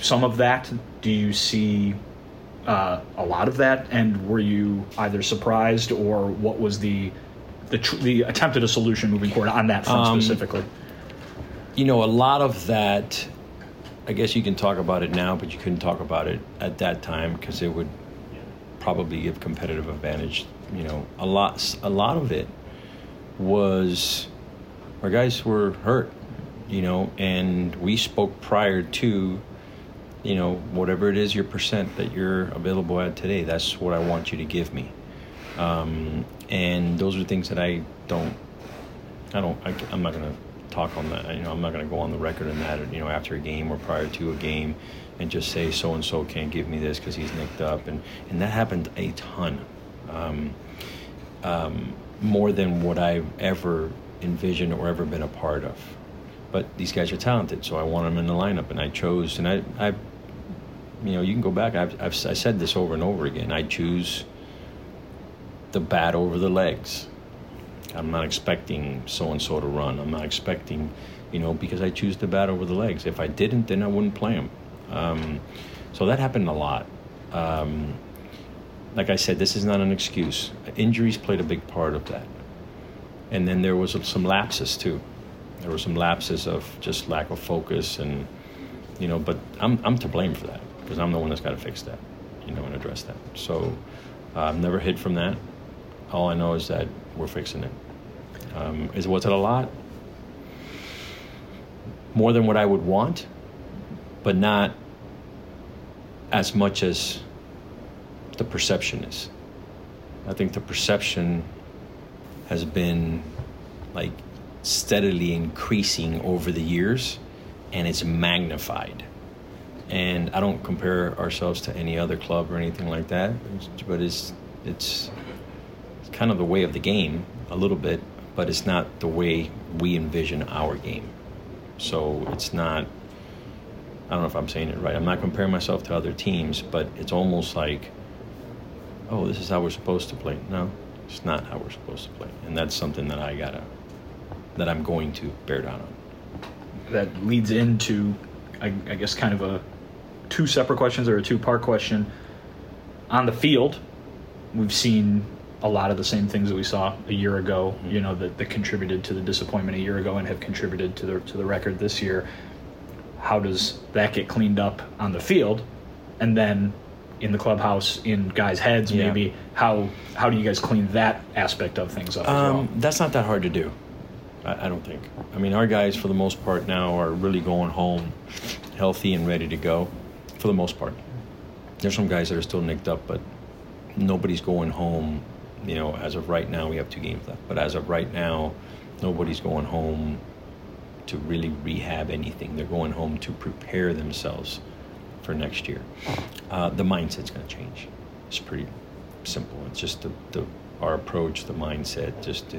some of that? Do you see uh, a lot of that? And were you either surprised, or what was the the, tr- the attempt at a solution moving forward on that front Um, specifically? You know, a lot of that, I guess you can talk about it now, but you couldn't talk about it at that time because it would probably give competitive advantage. You know, a lot, a lot of it was our guys were hurt, you know, and we spoke prior to, you know, whatever it is your percent that you're available at today, that's what I want you to give me. Um, and those are things that I don't, I don't, I, I'm not going to talk on that. You know, I'm not going to go on the record on that, you know, after a game or prior to a game and just say so-and-so can't give me this because he's nicked up. And, and that happened a ton, um, um, more than what I've ever envisioned or ever been a part of. But these guys are talented, so I want them in the lineup, and I chose, and I, I you know, you can go back. I've, I've I said this over and over again. I choose the bat over the legs. I'm not expecting so-and-so to run. I'm not expecting, you know, because I choose the bat over the legs. If I didn't, then I wouldn't play him. Um, so that happened a lot. Um, like I said, this is not an excuse. Injuries played a big part of that. And then there was some lapses, too. There were some lapses of just lack of focus and, you know, but I'm I'm to blame for that because I'm the one that's got to fix that, you know, and address that. So uh, I've never hid from that. All I know is that we're fixing it. Um, is was it a lot? More than what I would want, but not as much as the perception is. I think the perception has been like steadily increasing over the years, and it's magnified. And I don't compare ourselves to any other club or anything like that, but it's it's kind of the way of the game a little bit, but it's not the way we envision our game. So it's not, I don't know if I'm saying it right. I'm not comparing myself to other teams, but it's almost like, oh, this is how we're supposed to play. No, it's not how we're supposed to play. And that's something that I gotta, that I'm going to bear down on. That leads into, I, I guess, kind of a two separate questions or a two-part question. On the field, we've seen a lot of the same things that we saw a year ago, you know, that, that contributed to the disappointment a year ago and have contributed to the to the record this year. How does that get cleaned up on the field? And then in the clubhouse, in guys' heads, Yeah. maybe, how how do you guys clean that aspect of things up as Um, well? that's not that hard to do, I, I don't think. I mean, our guys, for the most part now, are really going home healthy and ready to go, for the most part. There's some guys that are still nicked up, but nobody's going home. You know, as of right now, we have two games left. But as of right now, nobody's going home to really rehab anything. They're going home to prepare themselves for next year. Uh, the mindset's going to change. It's pretty simple. It's just the, the our approach, the mindset. Just, uh,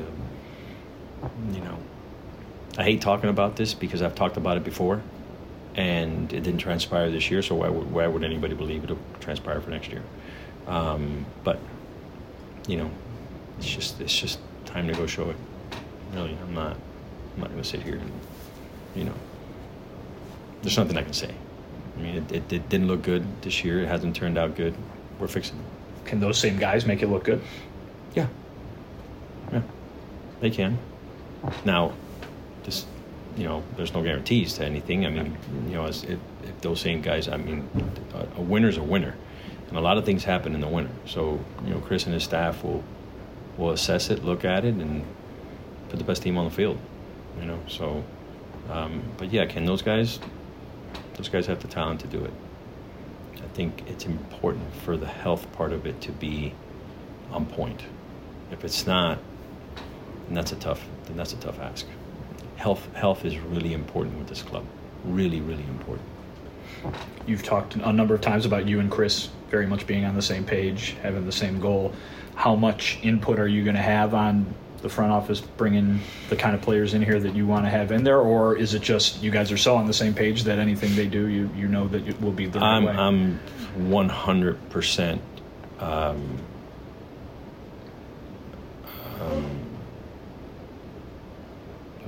you know, I hate talking about this because I've talked about it before, and it didn't transpire this year. So why would why would anybody believe it'll transpire for next year? Um, but you know, it's just it's just time to go show it. Really, I'm not I'm not going to sit here and, you know, there's nothing I can say. I mean, it, it, it didn't look good this year. It hasn't turned out good. We're fixing it. Can those same guys make it look good? Yeah, yeah, they can. Now, just, you know, there's no guarantees to anything. I mean, you know, as if, if those same guys, I mean, a, a winner's a winner. And a lot of things happen in the winter. So, you know, Chris and his staff will will assess it, look at it, and put the best team on the field. You know, so, um, but yeah, can those guys, those guys have the talent to do it. I think it's important for the health part of it to be on point. If it's not, then that's a tough, then that's a tough ask. Health, health is really important with this club. Really, really important. You've talked a number of times about you and Chris very much being on the same page, having the same goal. How much input are you going to have on the front office bringing the kind of players in here that you want to have in there, or is it just you guys are so on the same page that anything they do, you you know that it will be the right I'm way? I'm one hundred percent um, um,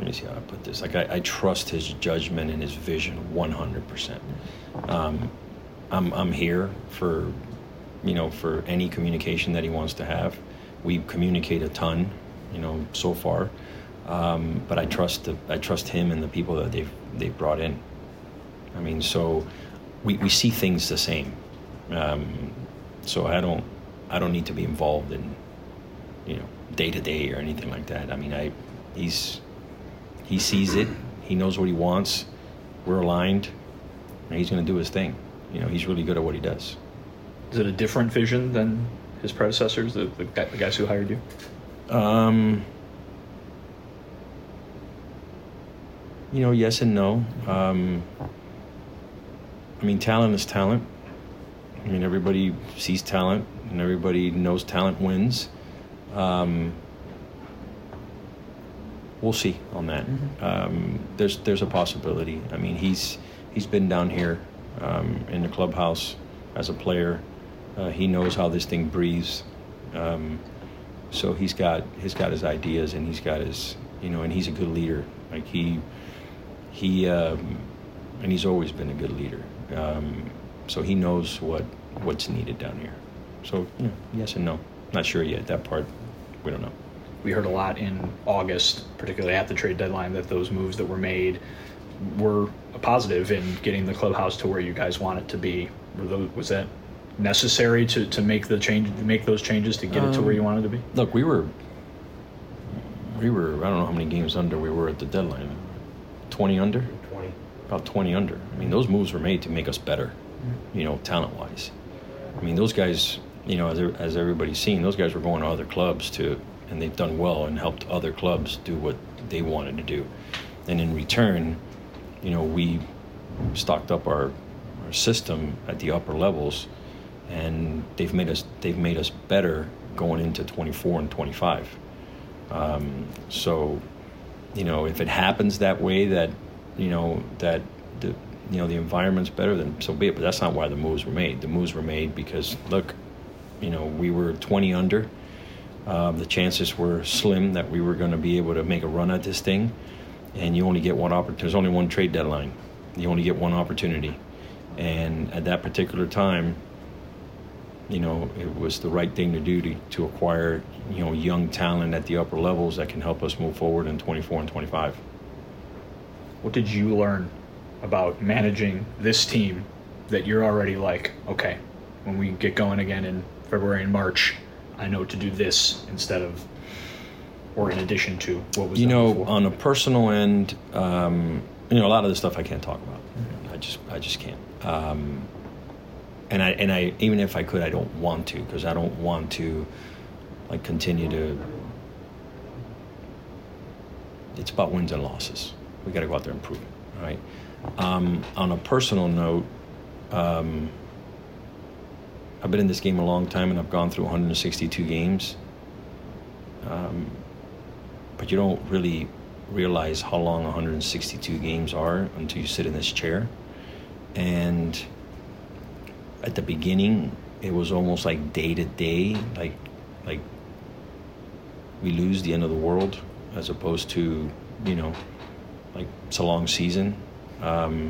me see how I put this. Like I, I trust his judgment and his vision one hundred percent. Um, I'm I'm here for, you know, for any communication that he wants to have. We communicate a ton, you know, so far. Um, but I trust the, I trust him and the people that they've they've brought in. I mean, so we, we see things the same. Um, so I don't I don't need to be involved in, you know, day to day or anything like that. I mean, I he's he sees it. He knows what he wants. We're aligned, and he's going to do his thing. You know, he's really good at what he does. Is it a different vision than his predecessors, the, the, guy, the guys who hired you? Um, you know, yes and no. Um, I mean, talent is talent. I mean, everybody sees talent, and everybody knows talent wins. Um, we'll see on that. Mm-hmm. Um, there's there's a possibility. I mean, he's he's been down here um, in the clubhouse as a player. Uh, he knows how this thing breathes. Um, so he's got he's got his ideas, and he's got his, you know, and he's a good leader. Like he he um, and he's always been a good leader. Um, so he knows what what's needed down here. So you know, yes and no. Not sure yet. That part we don't know. We heard a lot in August, particularly at the trade deadline, that those moves that were made were a positive in getting the clubhouse to where you guys want it to be. Were those, was that necessary to, to make the change, to make those changes to get um, it to where you wanted to be? Look, we were, we were. I don't know how many games under we were at the deadline. Twenty under. Twenty. About twenty under. I mean, those moves were made to make us better. You know, talent wise. I mean, those guys. You know, as as everybody's seen, those guys were going to other clubs to, and they've done well and helped other clubs do what they wanted to do. And in return, you know, we stocked up our, our system at the upper levels, and they've made us they've made us better going into twenty-four and twenty-five. Um, so, you know, if it happens that way, that you know that the you know the environment's better, then so be it. But that's not why the moves were made. The moves were made because look, you know, we were twenty under. Um, the chances were slim that we were going to be able to make a run at this thing, and you only get one opportunity. There's only one trade deadline. You only get one opportunity, and at that particular time, you know, it was the right thing to do to, to acquire, you know, young talent at the upper levels that can help us move forward in twenty-four and twenty-five. What did you learn about managing this team that you're already like, okay, when we get going again in February and March, I know to do this instead of, or in addition to what was you know before? On a personal end, um, you know, a lot of the stuff I can't talk about. Mm-hmm. I just I just can't. Um, and I and I even if I could, I don't want to, because I don't want to like continue to. It's about wins and losses. We got to go out there and prove it, right? Um, on a personal note. Um, I've been in this game a long time, and I've gone through one hundred sixty-two games. Um, but you don't really realize how long one hundred sixty-two games are until you sit in this chair. And at the beginning, it was almost like day to day, like like we lose the end of the world, as opposed to, you know, like it's a long season. Um,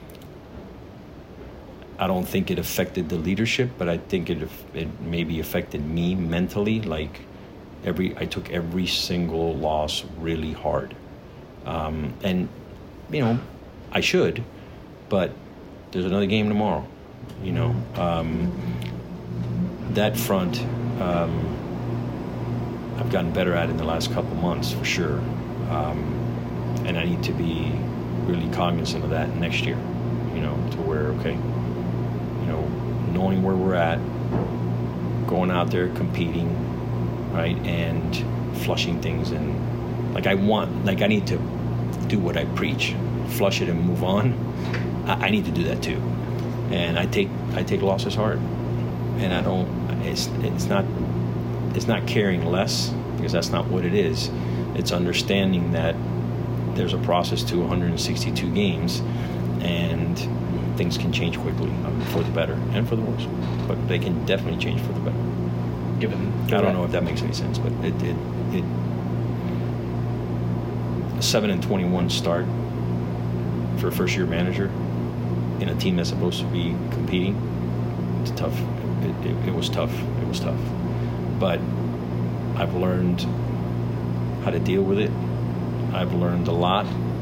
I don't think it affected the leadership, but I think it it maybe affected me mentally. Like every, I took every single loss really hard, um, and you know, I should, but there's another game tomorrow. You know, um, that front um, I've gotten better at in the last couple months for sure, um, and I need to be really cognizant of that next year. You know, to where okay. You know, knowing where we're at, going out there competing, right, and flushing things, and like I want, like I need to do what I preach, flush it and move on. I, I need to do that too, and I take I take losses hard, and I don't. It's it's not it's not caring less, because that's not what it is. It's understanding that there's a process to one hundred sixty-two games, and things can change quickly, um, for the better and for the worse, but they can definitely change for the better. Given, I don't know if that makes any sense, but it it, it a seven and twenty-one start for a first-year manager in a team that's supposed to be competing. It's tough. It, it, it was tough. It was tough. But I've learned how to deal with it. I've learned a lot.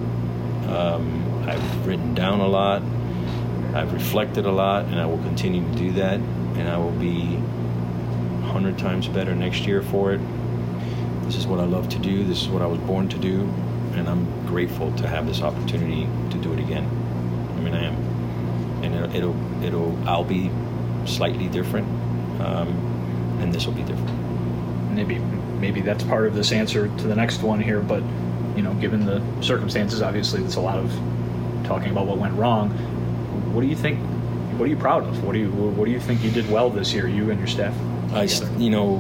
Um, I've written down a lot. I've reflected a lot, and I will continue to do that. And I will be a hundred times better next year for it. This is what I love to do. This is what I was born to do, and I'm grateful to have this opportunity to do it again. I mean, I am, and it'll, it'll, it'll I'll be slightly different, um, and this will be different. Maybe, maybe that's part of this answer to the next one here. But you know, given the circumstances, obviously, there's a lot of talking about what went wrong. What do you think? What are you proud of? What do you What do you think you did well this year, you and your staff? I, you know,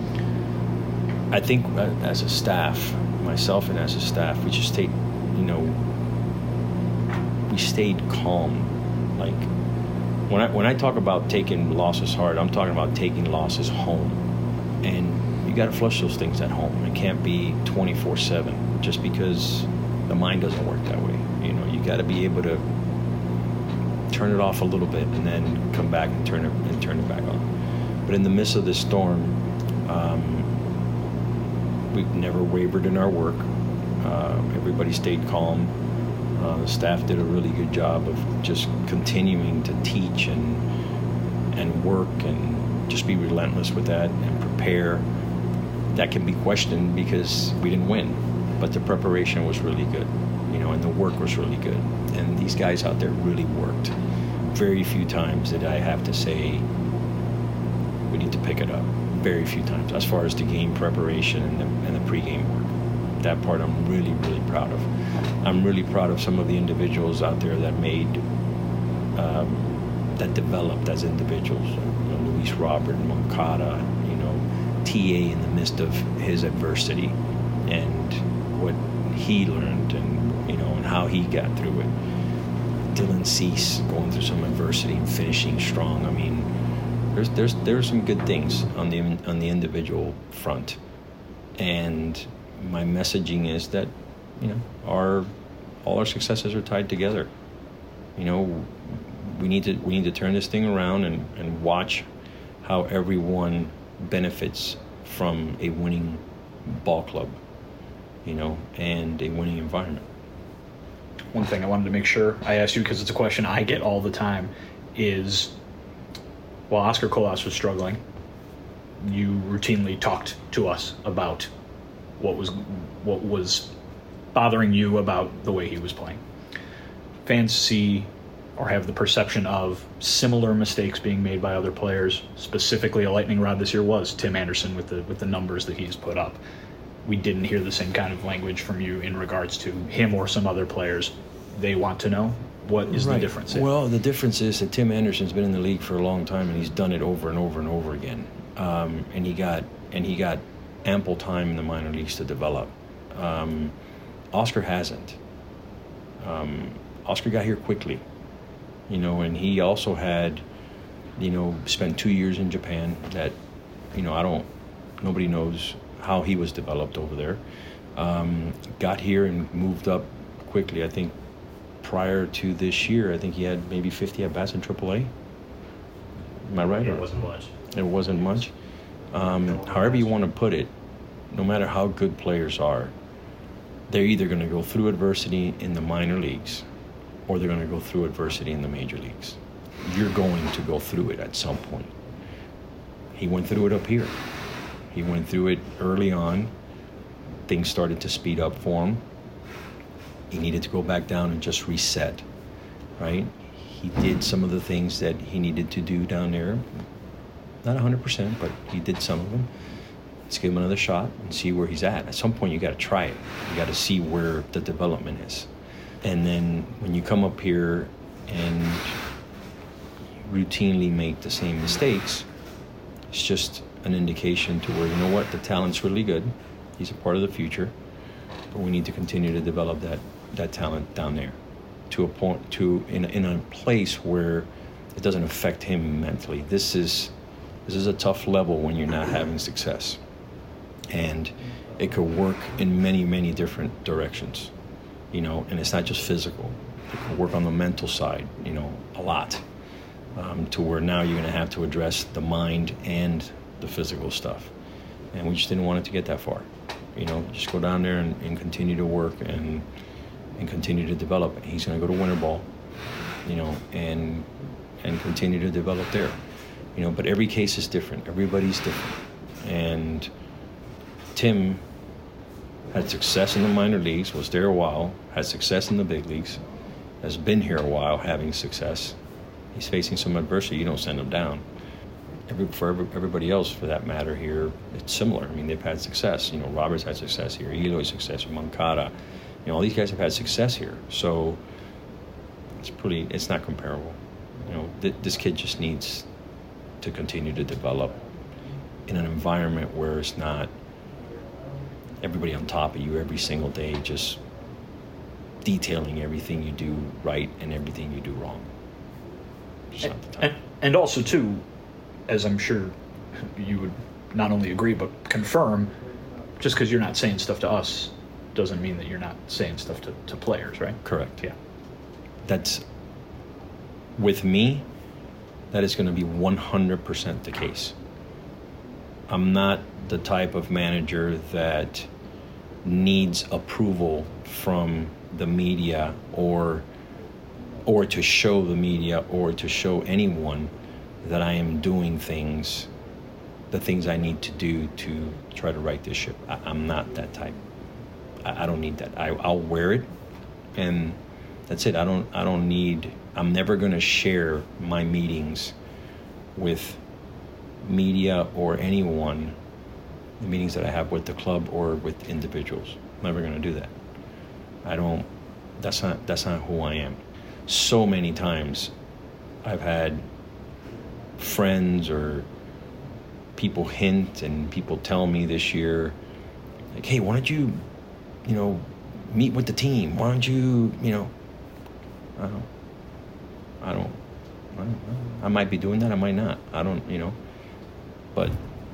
I think as a staff, myself and as a staff, we just stayed, you know, we stayed calm. Like when I when I talk about taking losses hard, I'm talking about taking losses home, and you got to flush those things at home. It can't be twenty-four seven just because the mind doesn't work that way. You know, you got to be able to turn it off a little bit and then come back and turn it and turn it back on. But in the midst of this storm, um, we've never wavered in our work. Uh, everybody stayed calm. Uh, the staff did a really good job of just continuing to teach and and work and just be relentless with that and prepare. That can be questioned because we didn't win, but the preparation was really good, you know, and the work was really good. And these guys out there really worked. Very few times did I have to say, we need to pick it up. Very few times, as far as the game preparation and the, and the pregame work. That part I'm really, really proud of. I'm really proud of some of the individuals out there that made, um, that developed as individuals. You know, Luis Robert, Moncada, you know, T A in the midst of his adversity and what he learned and, you know, and how he got through it. Dylan Cease going through some adversity and finishing strong. I mean, there's there's there's some good things on the on the individual front, and my messaging is that, you know, our all our successes are tied together. You know, we need to we need to turn this thing around and, and watch how everyone benefits from a winning ball club, you know, and a winning environment. One thing I wanted to make sure I asked you, because it's a question I get all the time, is while Oscar Colas was struggling, you routinely talked to us about what was what was bothering you about the way he was playing. Fans see or have the perception of similar mistakes being made by other players. Specifically, a lightning rod this year was Tim Anderson with the with the numbers that he's put up. We didn't hear the same kind of language from you in regards to him or some other players. They want to know, what is right. the difference there? Well, the difference is that Tim Anderson's been in the league for a long time, and he's done it over and over and over again. Um, and he got and he got ample time in the minor leagues to develop. Um, Oscar hasn't. Um, Oscar got here quickly, you know, and he also had, you know, spent two years in Japan. That, you know, I don't. Nobody knows how he was developed over there. Um, got here and moved up quickly. I think prior to this year, I think he had maybe fifty at-bats in triple A. Am I right? It wasn't much. It wasn't much. Um, however you want to put it, no matter how good players are, they're either going to go through adversity in the minor leagues or they're going to go through adversity in the major leagues. You're going to go through it at some point. He went through it up here. He went through it early on. Things started to speed up for him. He needed to go back down and just reset, right? He did some of the things that he needed to do down there. Not one hundred percent, but he did some of them. Let's give him another shot and see where he's at. At some point, you got to try it. You got to see where the development is. And then when you come up here and routinely make the same mistakes, it's just an indication to where, you know what, the talent's really good. He's a part of the future, but we need to continue to develop that that talent down there to a point, to in in a place where it doesn't affect him mentally. This is this is a tough level when you're not having success, and it could work in many many different directions. you know, and it's not just physical. Work on the mental side, you know, a lot, um, to where now you're going to have to address the mind and the physical stuff. And we just didn't want it to get that far. You know, just go down there and, and continue to work and and continue to develop. He's going to go to winter ball, you know, and and continue to develop there. You know, but every case is different. Everybody's different. And Tim had success in the minor leagues, was there a while, had success in the big leagues, has been here a while having success. He's facing some adversity. You don't send him down. Every, for every, everybody else, for that matter, here, it's similar. I mean, they've had success. You know, Robert's had success here. Eloy's success. Moncada. You know, all these guys have had success here. So it's pretty. It's not comparable. You know, th- this kid just needs to continue to develop in an environment where it's not everybody on top of you every single day, just detailing everything you do right and everything you do wrong. Just not the time. And, and also, too, as I'm sure you would not only agree but confirm, just because you're not saying stuff to us doesn't mean that you're not saying stuff to, to players, right? Correct. Yeah. That's, with me, that is going to be one hundred percent the case. I'm not the type of manager that needs approval from the media or or to show the media or to show anyone that I am doing things, the things I need to do to try to right this ship. I, I'm not that type. I, I don't need that. I, I'll wear it, and that's it. I don't. I don't need. I'm never going to share my meetings with media or anyone, the meetings that I have with the club or with individuals. I'm never going to do that. I don't. That's not. That's not who I am. So many times, I've had friends or people hint and people tell me this year, like, "Hey, why don't you, you know, meet with the team? Why don't you, you know?" I don't. I don't. I don't know. I might be doing that. I might not. I don't. You know. But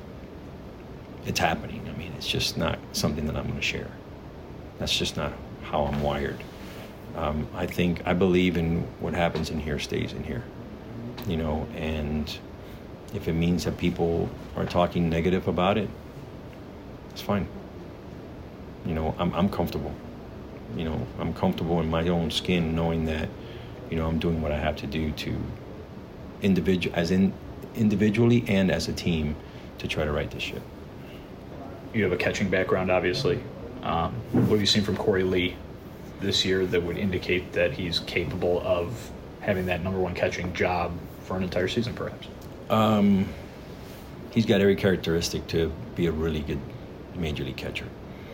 it's happening. I mean, it's just not something that I'm going to share. That's just not how I'm wired. Um, I think, I believe in what happens in here stays in here, you know, and if it means that people are talking negative about it, it's fine. You know, I'm, I'm comfortable. You know, I'm comfortable in my own skin knowing that, you know, I'm doing what I have to do to individual, as in individually and as a team, to try to right this ship. You have a catching background, obviously. Um, what have you seen from Corey Lee this year that would indicate that he's capable of having that number one catching job for an entire season, perhaps? Um, he's got every characteristic to be a really good major league catcher.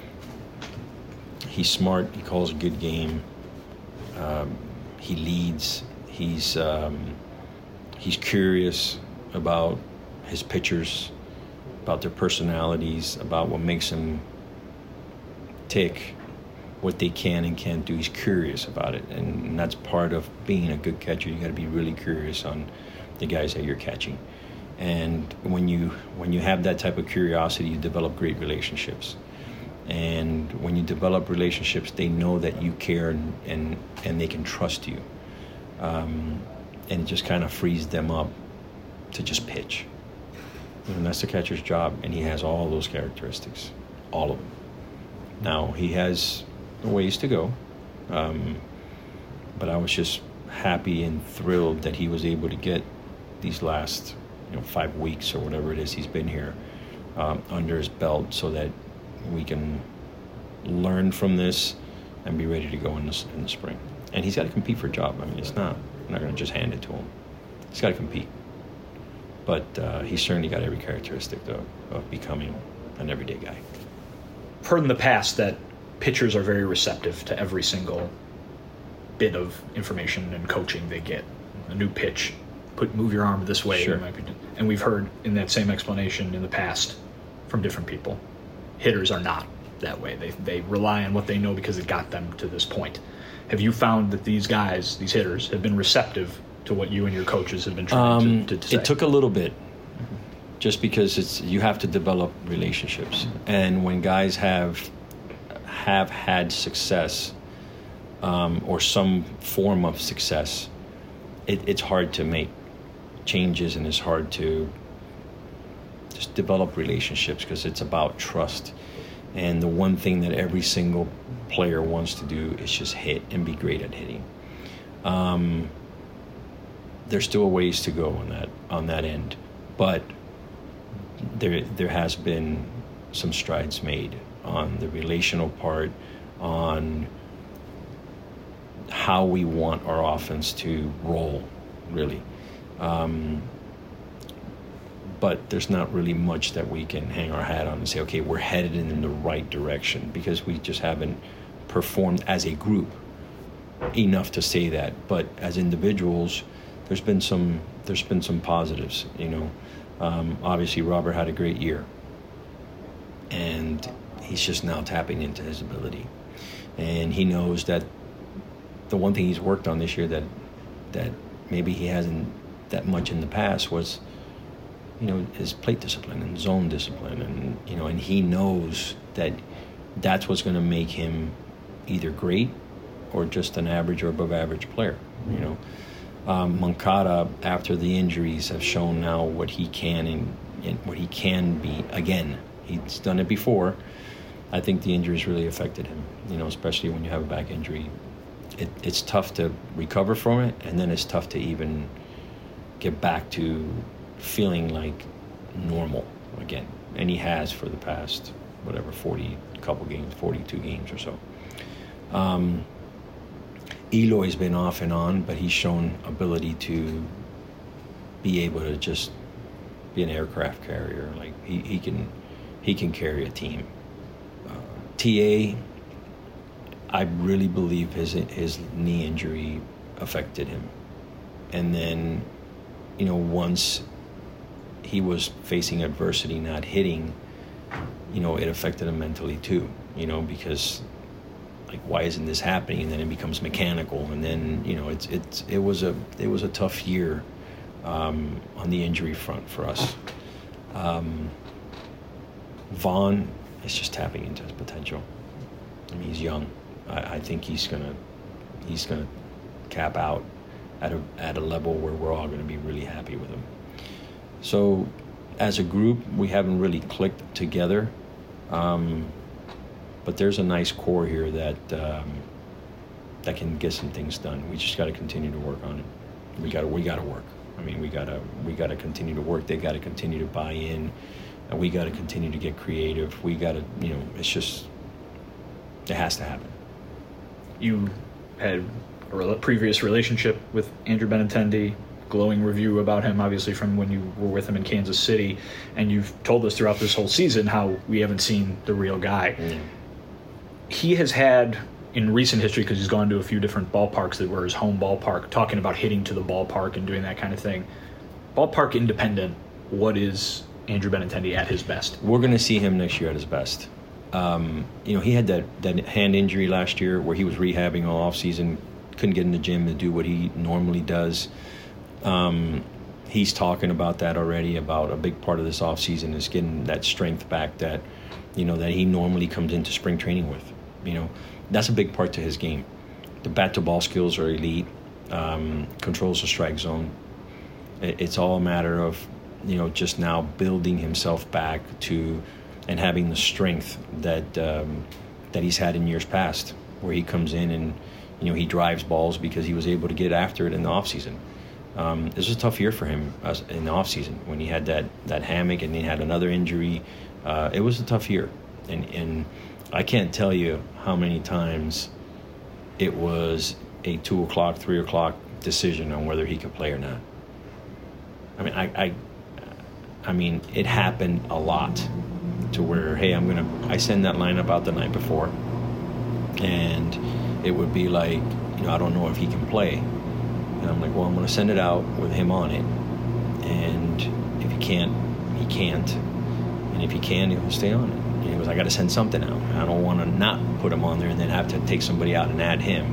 He's smart. He calls a good game. Um, he leads. He's um, he's curious about his pitchers, about their personalities, about what makes them tick, what they can and can't do. He's curious about it, and, and that's part of being a good catcher. You got to be really curious on the guys that you're catching. And when you when you have that type of curiosity, you develop great relationships. And when you develop relationships, they know that you care and and, and they can trust you. Um, and it just kind of frees them up to just pitch. And that's the catcher's job, and he has all those characteristics, all of them. Now, he has a ways to go, um, but I was just happy and thrilled that he was able to get these last, you know, five weeks or whatever it is he's been here um, under his belt, so that we can learn from this and be ready to go in the, in the spring. And he's got to compete for a job. I mean, it's not, I'm not going to just hand it to him. He's got to compete. But uh, he's certainly got every characteristic of, of becoming an everyday guy. Heard in the past that pitchers are very receptive to every single bit of information and coaching they get. A new pitch, put move your arm this way. Sure. Might be, and we've heard in that same explanation in the past from different people. Hitters are not that way. They they rely on what they know because it got them to this point. Have you found that these guys, these hitters, have been receptive to what you and your coaches have been trying um, to, to, to say? It took a little bit, just because it's you have to develop relationships, and when guys have have had success, um, or some form of success, it, it's hard to make changes, and it's hard to just develop relationships because it's about trust. And the one thing that every single player wants to do is just hit and be great at hitting. Um, there's still a ways to go on that on that end, but there there has been some strides made on the relational part, on how we want our offense to roll, really. Um, but there's not really much that we can hang our hat on and say, okay, we're headed in the right direction, because we just haven't performed as a group enough to say that. But as individuals, there's been some there's been some positives. You know, um, obviously Robert had a great year, and he's just now tapping into his ability, and he knows that the one thing he's worked on this year that that maybe he hasn't that much in the past was, you know, his plate discipline and zone discipline, and you know, and he knows that that's what's going to make him either great or just an average or above average player. You know, um, Moncada, after the injuries, have shown now what he can and, and what he can be again. He's done it before. I think the injuries really affected him. You know, especially when you have a back injury, it, it's tough to recover from it, and then it's tough to even get back to feeling like normal again. And he has for the past whatever forty couple games, forty-two games or so. Um, Eloy's been off and on, but he's shown ability to be able to just be an aircraft carrier. Like he, he can he can carry a team. Uh, T A, I really believe his his knee injury affected him, and then, you know, once he was facing adversity, not hitting, you know, it affected him mentally too, you know, because like, why isn't this happening? And then it becomes mechanical, and then, you know, it's it's it was a it was a tough year um, on the injury front for us. Um, Vaughn is just tapping into his potential. I mean, he's young. I, I think he's gonna he's gonna cap out at a at a level where we're all gonna be really happy with him. So, as a group, we haven't really clicked together, um, but there's a nice core here that um, that can get some things done. We just got to continue to work on it. We got to we got to work. I mean, we gotta we gotta continue to work. They got to continue to buy in, and we got to continue to get creative. We got to, you know, it's just it has to happen. You had a re- previous relationship with Andrew Benintendi. Glowing review about him, obviously, from when you were with him in Kansas City, and you've told us throughout this whole season how we haven't seen the real guy. Mm. He has had, in recent history, because he's gone to a few different ballparks that were his home ballpark, talking about hitting to the ballpark and doing that kind of thing. Ballpark independent, what is Andrew Benintendi at his best? We're going to see him next year at his best. Um, you know, he had that, that hand injury last year where he was rehabbing all offseason, couldn't get in the gym to do what he normally does. Um, he's talking about that already, about a big part of this offseason is getting that strength back that, you know, that he normally comes into spring training with. You know, that's a big part to his game. The bat-to-ball skills are elite, um, controls the strike zone. It, it's all a matter of, you know, just now building himself back to and having the strength that um, that he's had in years past, where he comes in and, you know, he drives balls because he was able to get after it in the offseason. Um, this was a tough year for him uh, in the offseason when he had that, that hammock and he had another injury. Uh, it was a tough year. And, and I can't tell you how many times it was a two o'clock, three o'clock decision on whether he could play or not. I mean, I, I, I mean, it happened a lot to where, hey, I'm going to, I send that lineup out the night before, and it would be like, you know, I don't know if he can play. And I'm like, well, I'm going to send it out with him on it. And if he can't, he can't. And if he can, he'll stay on it. And he goes, I got to send something out. I don't want to not put him on there and then have to take somebody out and add him.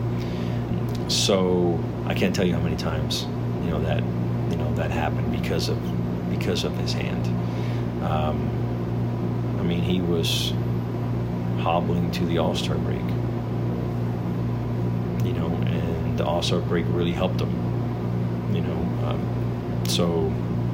So I can't tell you how many times, you know, that, you know, that happened because of, because of his hand. Um, I mean, he was hobbling to the All-Star break. you know, and the All-Star break really helped him, you know. Um, so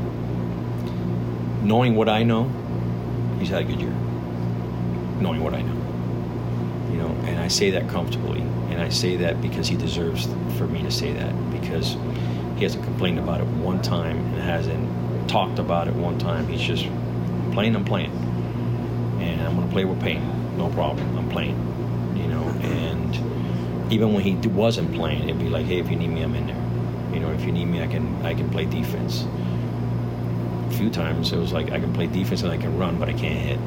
knowing what I know, he's had a good year. Knowing what I know, you know, and I say that comfortably, and I say that because he deserves for me to say that, because he hasn't complained about it one time and hasn't talked about it one time. He's just playing. I'm playing, and I'm gonna play with pain. No problem. I'm playing, you know. And even when he wasn't playing, it'd be like, hey, if you need me, I'm in there. You know, if you need me, I can I can play defense. A few times it was like I can play defense and I can run, but I can't hit.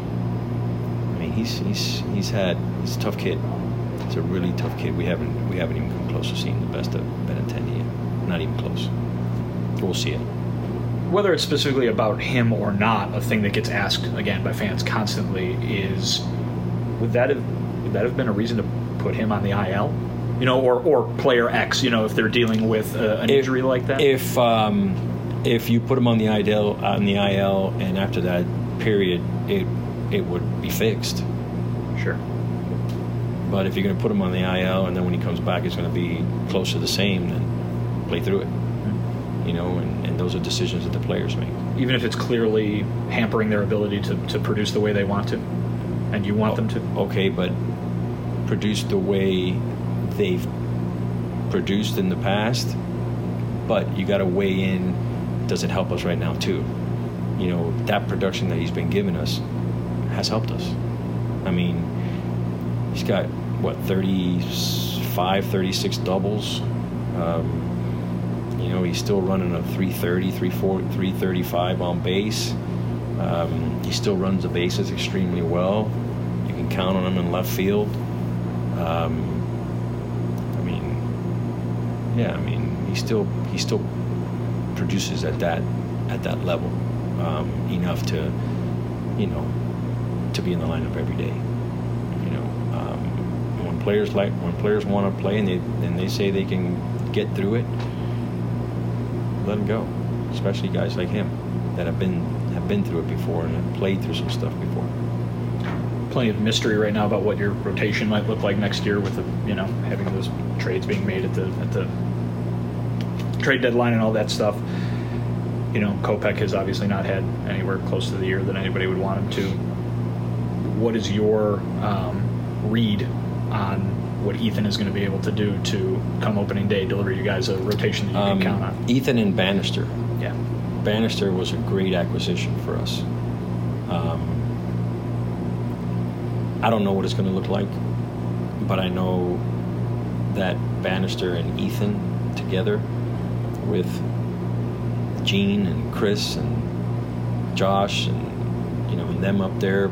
I mean, he's he's he's had he's a tough kid. He's a really tough kid. We haven't we haven't even come close to seeing the best of Benintendi yet. Not even close. We'll see it. Whether it's specifically about him or not, a thing that gets asked again by fans constantly is, would that have would that have been a reason to put him on the I L? You know, or or player X. You know, if they're dealing with uh, an if, injury like that. If um, if you put him on the I L on the I L, and after that period, it it would be fixed. Sure. But if you're going to put him on the I L, and then when he comes back, it's going to be close to the same, then play through it. You know, and, and those are decisions that the players make. Even if it's clearly hampering their ability to, to produce the way they want to, and you want oh, them to. Okay, but produce the way they've produced in the past, but you got to weigh in, does it help us right now too? You know, that production that he's been giving us has helped us. I mean, he's got, what, thirty-five, thirty-six doubles. Um, You know, he's still running a three thirty, three forty, three thirty-five on base. Um, he still runs the bases extremely well. You can count on him in left field. Um, I mean, yeah, I mean, he still he still produces at that at that level um, enough to, you know, to be in the lineup every day. You know, um, when players like when players want to play and they and they say they can get through it, let him go, especially guys like him that have been have been through it before and have played through some stuff before. Plenty of mystery right now about what your rotation might look like next year, with the, you know, having those trades being made at the at the trade deadline and all that stuff. You know, Kopech has obviously not had anywhere close to the year that anybody would want him to. What is your um, read on what Ethan is going to be able to do to, come opening day, deliver you guys a rotation that you um, can count on? Ethan and Bannister. Yeah. Bannister was a great acquisition for us. Um, I don't know what it's going to look like, but I know that Bannister and Ethan together with Gene and Chris and Josh and, you know, and them up there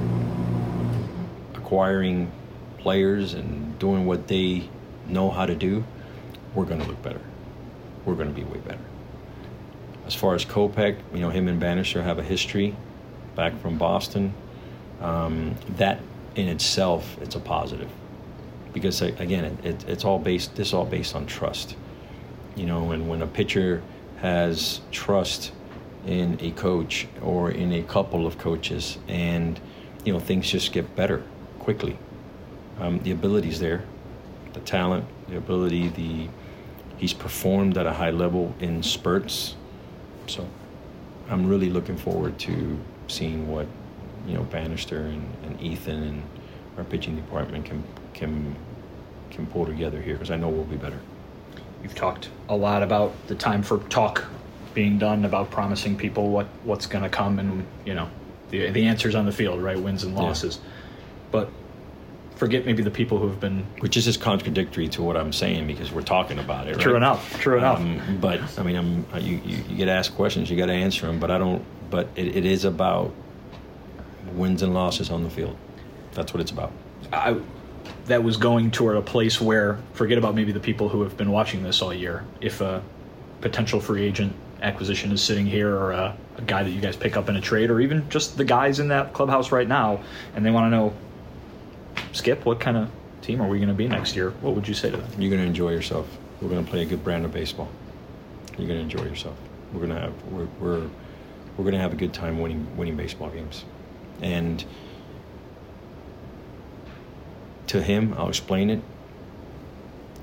acquiring players and doing what they know how to do, we're going to look better. We're going to be way better. As far as Kopech, you know, him and Bannister have a history back from Boston. Um, that in itself, it's a positive, because again, it, it, it's all based. This is all based on trust, you know. And when a pitcher has trust in a coach or in a couple of coaches, and you know, things just get better quickly. Um, the ability's there, the talent, the ability, the he's performed at a high level in spurts. So I'm really looking forward to seeing what, you know, Bannister and, and Ethan and our pitching department can can can pull together here, because I know we'll be better. You've talked a lot about the time for talk being done, about promising people what, what's going to come, and, you know, the the answers on the field, right? Wins and losses. Yeah. But forget maybe the people who have been... Which is just contradictory to what I'm saying, because we're talking about it, right? True enough. True enough. Um, but, I mean, I'm you, you, you get asked questions, you got to answer them, but I don't... But it, it is about wins and losses on the field. That's what it's about. I, that was going toward a place where, forget about maybe the people who have been watching this all year. If a potential free agent acquisition is sitting here, or a, a guy that you guys pick up in a trade, or even just the guys in that clubhouse right now, and they want to know, Skip, what kind of team are we going to be next year? What would you say to them? You're going to enjoy yourself. We're going to play a good brand of baseball. You're going to enjoy yourself. We're going to have we're we're, we're going to have a good time winning winning baseball games. And to him, I'll explain it.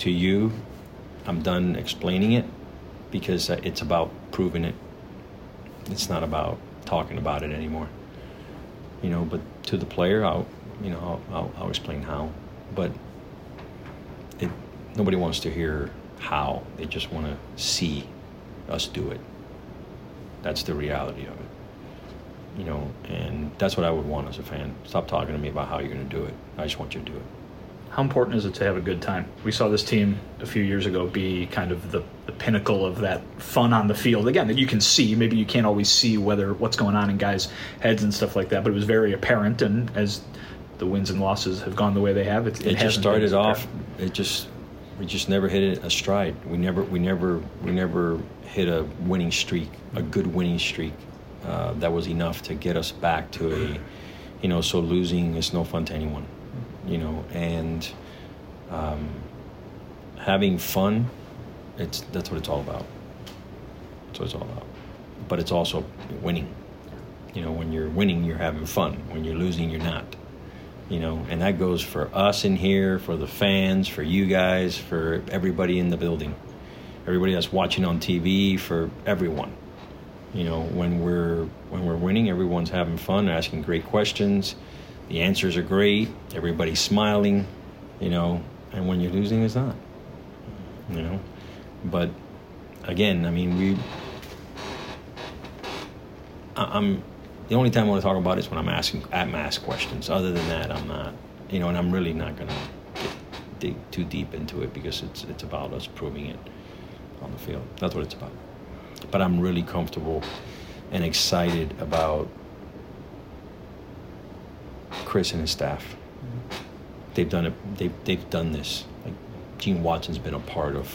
to you, I'm done explaining it because it's about proving it. It's not about talking about it anymore. You know, but to the player, I'll, you know, I'll, I'll, I'll explain how. But it, nobody wants to hear how. They just want to see us do it. That's the reality of it. You know, and that's what I would want as a fan. Stop talking to me about how you're going to do it. I just want you to do it. How important is it to have a good time? We saw this team a few years ago be kind of the, the pinnacle of that fun on the field. Again, that you can see. Maybe you can't always see whether what's going on in guys' heads and stuff like that, but it was very apparent. And as the wins and losses have gone the way they have, it, it, it just started off. Apparent. It just we just never hit it a stride. We never we never we never hit a winning streak, a good winning streak uh, that was enough to get us back to a, you know. So losing is no fun to anyone. You know, and um, having fun, it's that's what it's all about. That's what it's all about. But it's also winning. You know, when you're winning, you're having fun. When you're losing, you're not. You know, and that goes for us in here, for the fans, for you guys, for everybody in the building, everybody that's watching on T V, for everyone. You know, when we're when we're winning, everyone's having fun, asking great questions. The answers are great. Everybody's smiling, you know. And when you're losing, it's not, you know. But again, I mean, we. I'm the only time I want to talk about it is when I'm asking I'm asked questions. Other than that, I'm not, you know. And I'm really not gonna get, dig too deep into it because it's it's about us proving it on the field. That's what it's about. But I'm really comfortable and excited about Chris and his staff. Mm-hmm. They've done it. They've they've done this. Like Gene Watson's been a part of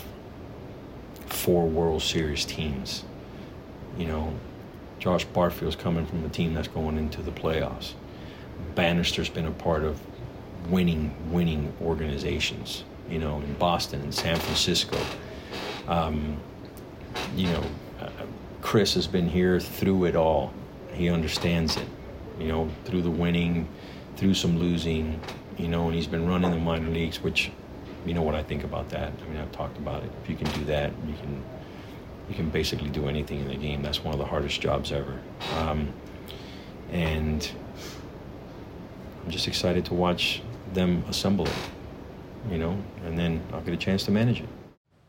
four World Series teams. You know, Josh Barfield's coming from a team that's going into the playoffs. Bannister's been a part of winning winning organizations. You know, in Boston and San Francisco. Um, you know, uh, Chris has been here through it all. He understands it. You know, through the winning, through some losing, you know, and he's been running the minor leagues, which, you know what I think about that. I mean, I've talked about it. If you can do that, you can you can basically do anything in the game. That's one of the hardest jobs ever. Um, and I'm just excited to watch them assemble it, you know, and then I'll get a chance to manage it.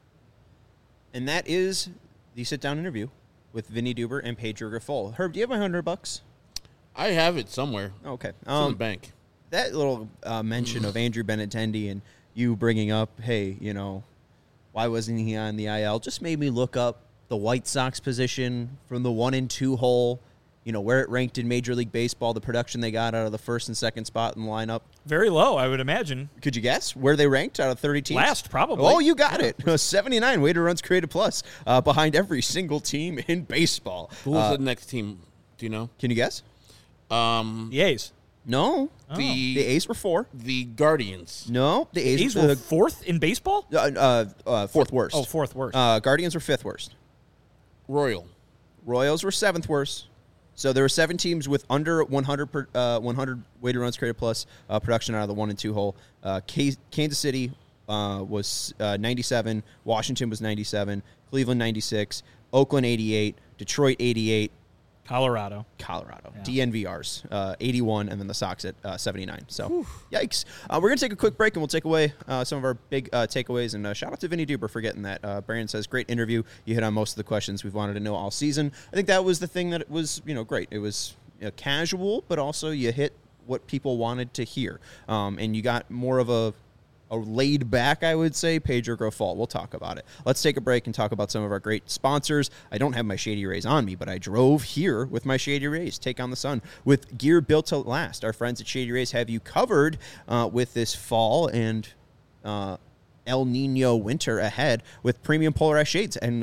And that is the sit-down interview with Vinny Duber and Pedro Grifol. Herb, do you have my hundred bucks? I have it somewhere. Okay. It's Um, in the bank. That little uh, mention of Andrew Benintendi and you bringing up, hey, you know, why wasn't he on the I L, just made me look up the White Sox position from the one and two hole, you know, where it ranked in Major League Baseball, the production they got out of the first and second spot in the lineup. Very low, I would imagine. Could you guess where they ranked out of thirty teams? Last, probably. Oh, you got it. seventy-nine weighted runs created plus, uh, behind every single team in baseball. Who was Uh, the next team? Do you know? Can you guess? Um, The A's. No. the The A's were four. the Guardians. No. The A's, A's uh, were fourth in baseball? uh, uh, uh, fourth worst. Oh, fourth worst. Uh, Guardians were fifth worst. Royal. Royals were seventh worst. So there were seven teams with under one hundred per, uh, one hundred weighted runs created plus uh, production out of the one and two hole. Uh, K- Kansas City uh, was uh, ninety-seven. Washington was ninety-seven. Cleveland ninety-six. Oakland eighty-eight. Detroit eighty-eight. Colorado. Colorado. Yeah. D N V Rs, uh, eighty-one, and then the Sox at uh, seventy-nine. So, Whew. Yikes. Uh, we're going to take a quick break, and we'll take away uh, some of our big uh, takeaways. And uh, shout out to Vinny Duber for getting that. Uh, Brandon says, great interview. You hit on most of the questions we've wanted to know all season. I think that was the thing that it was, you know, great. It was you know, casual, but also you hit what people wanted to hear. Um, and you got more of a A laid back, I would say, Pedro Grifol. We'll talk about it. Let's take a break and talk about some of our great sponsors. I don't have my Shady Rays on me, but I drove here with my Shady Rays. Take on the sun with gear built to last. Our friends at Shady Rays have you covered uh, with this fall and uh, El Nino winter ahead with premium polarized shades and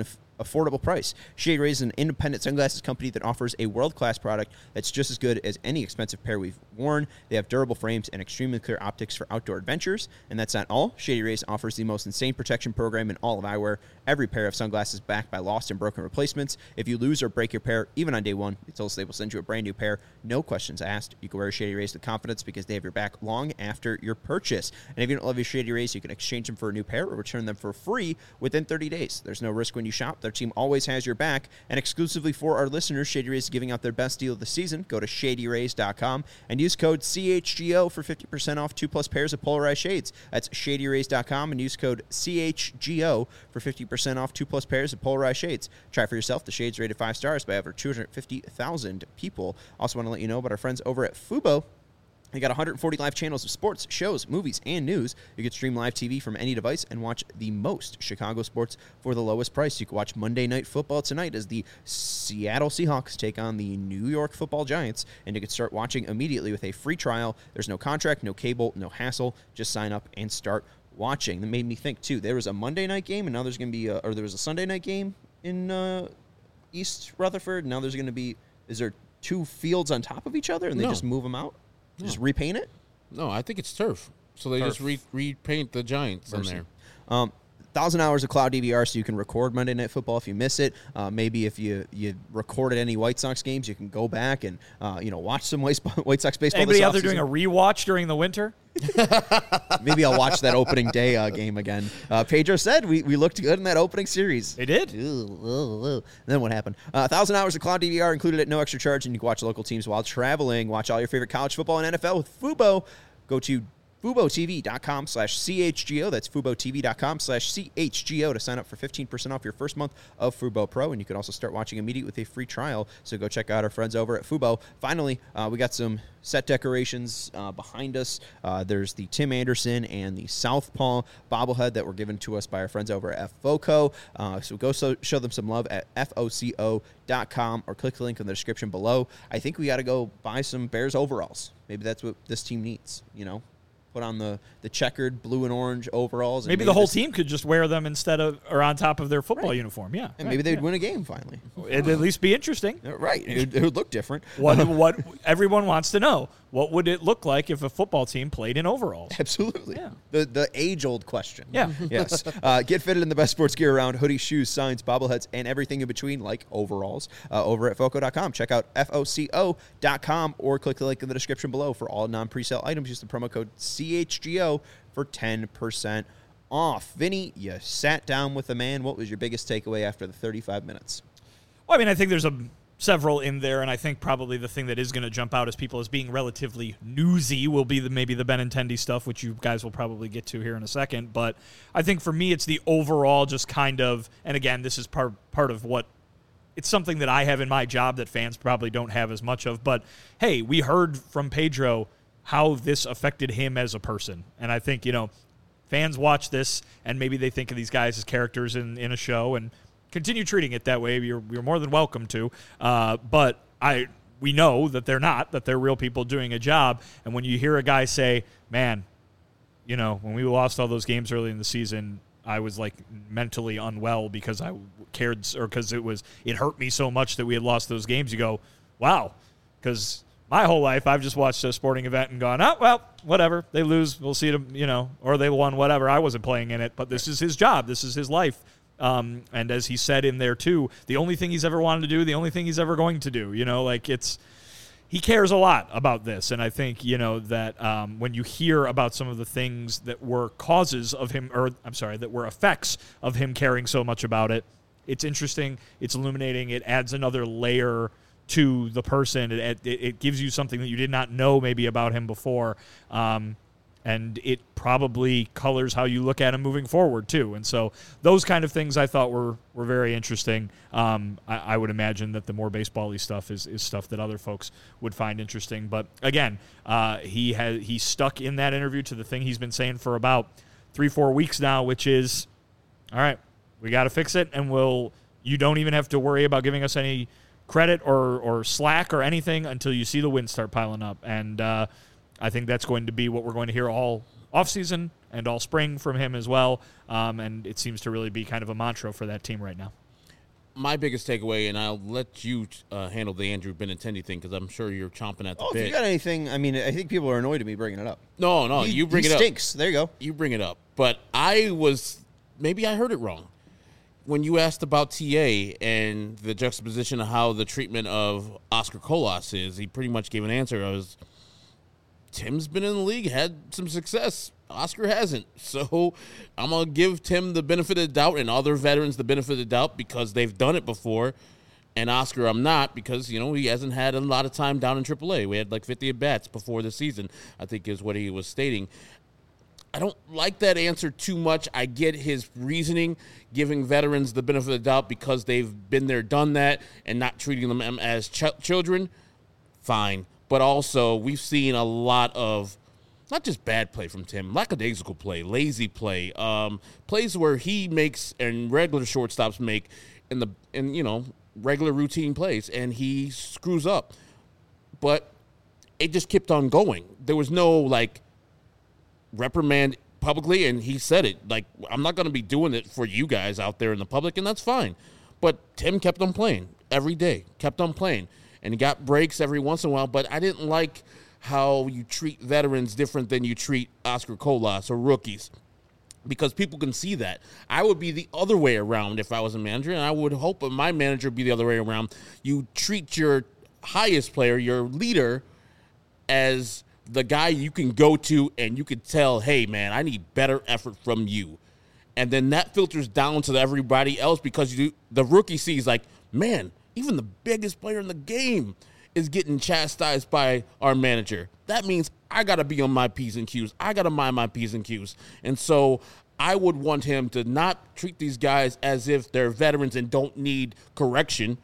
affordable price. Shady Rays is an independent sunglasses company that offers a world-class product that's just as good as any expensive pair we've worn. They have durable frames and extremely clear optics for outdoor adventures. And that's not all. Shady Rays offers the most insane protection program in all of eyewear. Every pair of sunglasses backed by lost and broken replacements. If you lose or break your pair, even on day one, they tell us they will send you a brand new pair. No questions asked. You can wear Shady Rays with confidence because they have your back long after your purchase. And if you don't love your Shady Rays, you can exchange them for a new pair or return them for free within thirty days. There's no risk when you shop. Their team always has your back. And exclusively for our listeners, Shady Rays is giving out their best deal of the season. Go to shady rays dot com and use code C H G O for fifty percent off two plus pairs of polarized shades. That's shady rays dot com and use code C H G O for fifty percent off two plus pairs of polarized shades. Try for yourself. The shades rated five stars by over two hundred fifty thousand people. Also want to let you know about our friends over at Fubo. They got one hundred forty live channels of sports, shows, movies, and news. You can stream live T V from any device and watch the most Chicago sports for the lowest price. You can watch Monday Night Football tonight as the Seattle Seahawks take on the New York Football Giants, and you can start watching immediately with a free trial. There's no contract, no cable, no hassle. Just sign up and start watching. That made me think, too. There was a Monday night game, and now there's going to be a, or there was a Sunday night game in uh, East Rutherford. Now there's going to be, is there two fields on top of each other, and they No. just move them out? No. Just repaint it? No, I think it's turf. So they Turf. just re- repaint the Giants in Mercy. there. Um, thousand hours of cloud D V R, so you can record Monday Night Football if you miss it. Uh, maybe if you you recorded any White Sox games, you can go back and uh, you know watch some White, White Sox baseball. Anybody this out there doing a offseason. rewatch during the winter? Maybe I'll watch that opening day uh, game again. Uh, Pedro said we, we looked good in that opening series. They did. Ooh, ooh, ooh. Then what happened? A uh, thousand hours of cloud D V R included at no extra charge, and you can watch local teams while traveling. Watch all your favorite college football and N F L with Fubo. Go to FuboTV.com slash CHGO. That's FuboTV.com slash CHGO to sign up for fifteen percent off your first month of Fubo Pro. And you can also start watching immediately with a free trial. So go check out our friends over at Fubo. Finally, uh, we got some set decorations uh, behind us. Uh, there's the Tim Anderson and the Southpaw bobblehead that were given to us by our friends over at FOCO. Uh, so go so, show them some love at F O C O dot com or click the link in the description below. I think we got to go buy some Bears overalls. Maybe that's what this team needs, you know? Put on the, the checkered blue and orange overalls. And Maybe, maybe the whole this, team could just wear them instead of or on top of their football Right. uniform. Yeah, And right, maybe they'd yeah. win a game finally. It'd at least be interesting. Uh, Right. It, would- it would look different. What what everyone wants to know: what would it look like if a football team played in overalls? Absolutely. Yeah. The the age old question. Yeah. Yes. Uh, get fitted in the best sports gear around: hoodies, shoes, signs, bobbleheads, and everything in between, like overalls. Uh, over at foco dot com. Check out F O C O dot com or click the link in the description below for all non-presale items. Use the promo code C H G O for ten percent off. Vinny, you sat down with the man. What was your biggest takeaway after the thirty-five minutes? Well, I mean, I think there's a several in there, and I think probably the thing that is going to jump out as people as being relatively newsy will be the maybe the Benintendi stuff, which you guys will probably get to here in a second. But I think for me, it's the overall just kind of, and again, this is part part of what. It's something that I have in my job that fans probably don't have as much of. But, hey, we heard from Pedro how this affected him as a person. And I think, you know, fans watch this and maybe they think of these guys as characters in, in a show and continue treating it that way. You're, you're more than welcome to. Uh, but I we know that they're not, that they're real people doing a job. And when you hear a guy say, man, you know, when we lost all those games early in the season, I was like mentally unwell because I cared or because it was it hurt me so much that we had lost those games. You go, wow, because my whole life I've just watched a sporting event and gone, oh well, whatever, they lose, we'll see them, you know, or they won, whatever. I wasn't playing in it, but this is his job, this is his life. Um, and as he said in there too, the only thing he's ever wanted to do, the only thing he's ever going to do, you know, like it's. He cares a lot about this, and I think, you know, that um, when you hear about some of the things that were causes of him, or I'm sorry, that were effects of him caring so much about it, it's interesting, it's illuminating, it adds another layer to the person, it, it, it gives you something that you did not know maybe about him before, um, and it probably colors how you look at him moving forward, too. And so those kind of things I thought were, were very interesting. Um, I, I would imagine that the more baseball-y stuff is, is stuff that other folks would find interesting. But, again, uh, he has he stuck in that interview to the thing he's been saying for about three, four weeks now, which is, all right, we got to fix it, and we'll you don't even have to worry about giving us any credit or, or slack or anything until you see the wins start piling up. And uh, I think that's going to be what we're going to hear all offseason and all spring from him as well. Um, and it seems to really be kind of a mantra for that team right now. my biggest takeaway, and I'll let you uh, handle the Andrew Benintendi thing because I'm sure you're chomping at the Oh, bit. if you got anything, I mean, I think people are annoyed at me bringing it up. No, no, he, you bring he it stinks. up. There you go. You bring it up. But I was, maybe I heard it wrong. When you asked about T A and the juxtaposition of how the treatment of Oscar Colas is, he pretty much gave an answer. I was, Tim's been in the league, had some success. Oscar hasn't. So I'm going to give Tim the benefit of the doubt and other veterans the benefit of the doubt because they've done it before. And Oscar, I'm not because, you know, he hasn't had a lot of time down in triple A. We had like fifty at-bats before the season, I think is what he was stating. I don't like that answer too much. I get his reasoning, giving veterans the benefit of the doubt because they've been there, done that, and not treating them as ch- children. Fine. But also, we've seen a lot of not just bad play from Tim, lackadaisical play, lazy play, um, plays where he makes and regular shortstops make in the in you know regular routine plays, and he screws up. But it just kept on going. There was no like reprimand publicly, and he said it like, I'm not going to be doing it for you guys out there in the public, and that's fine. But Tim kept on playing every day, kept on playing, and he got breaks every once in a while. But I didn't like how you treat veterans different than you treat Oscar Colas or rookies, because people can see that. I would be the other way around if I was a manager, and I would hope my manager would be the other way around. You treat your highest player, your leader, as the guy you can go to and you can tell, hey, man, I need better effort from you. And then that filters down to everybody else because you, the rookie sees like, man, even the biggest player in the game is getting chastised by our manager. That means I got to be on my P's and Q's. I got to mind my P's and Q's. And so I would want him to not treat these guys as if they're veterans and don't need correction.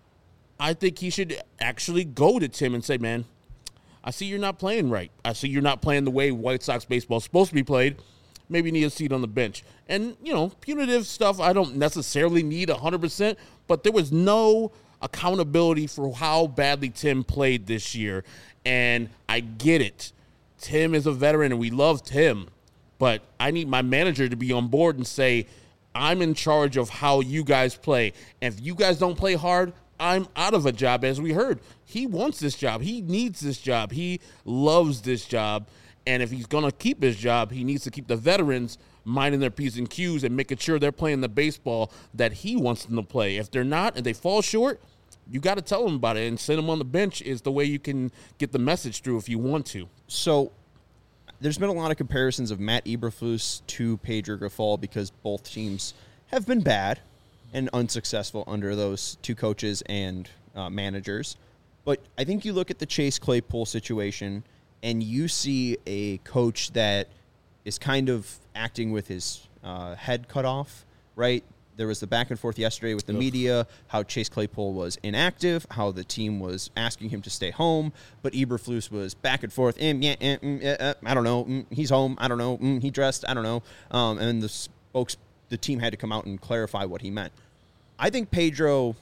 I think he should actually go to Tim and say, man, I see you're not playing right. I see you're not playing the way White Sox baseball is supposed to be played. Maybe you need a seat on the bench. And, you know, punitive stuff I don't necessarily need one hundred percent, but there was no accountability for how badly Tim played this year. And I get it. Tim is a veteran, and we love Tim. But I need my manager to be on board and say, I'm in charge of how you guys play. And if you guys don't play hard, I'm out of a job. As we heard, he wants this job. He needs this job. He loves this job. And if he's going to keep his job, he needs to keep the veterans minding their P's and Q's and making sure they're playing the baseball that he wants them to play. If they're not and they fall short, you got to tell them about it, and send them on the bench is the way you can get the message through if you want to. So there's been a lot of comparisons of Matt Eberflus to Pedro Grifol because both teams have been bad and unsuccessful under those two coaches and uh, managers. But I think you look at the Chase Claypool situation and you see a coach that is kind of acting with his uh, head cut off, right? There was the back and forth yesterday with the Ugh. media, how Chase Claypool was inactive, how the team was asking him to stay home, but Eberflus was back and forth. Mm, yeah, mm, mm, uh, I don't know. Mm, he's home. I don't know. Mm, he dressed. I don't know. Um, and the spokes, the team had to come out and clarify what he meant. I think Pedro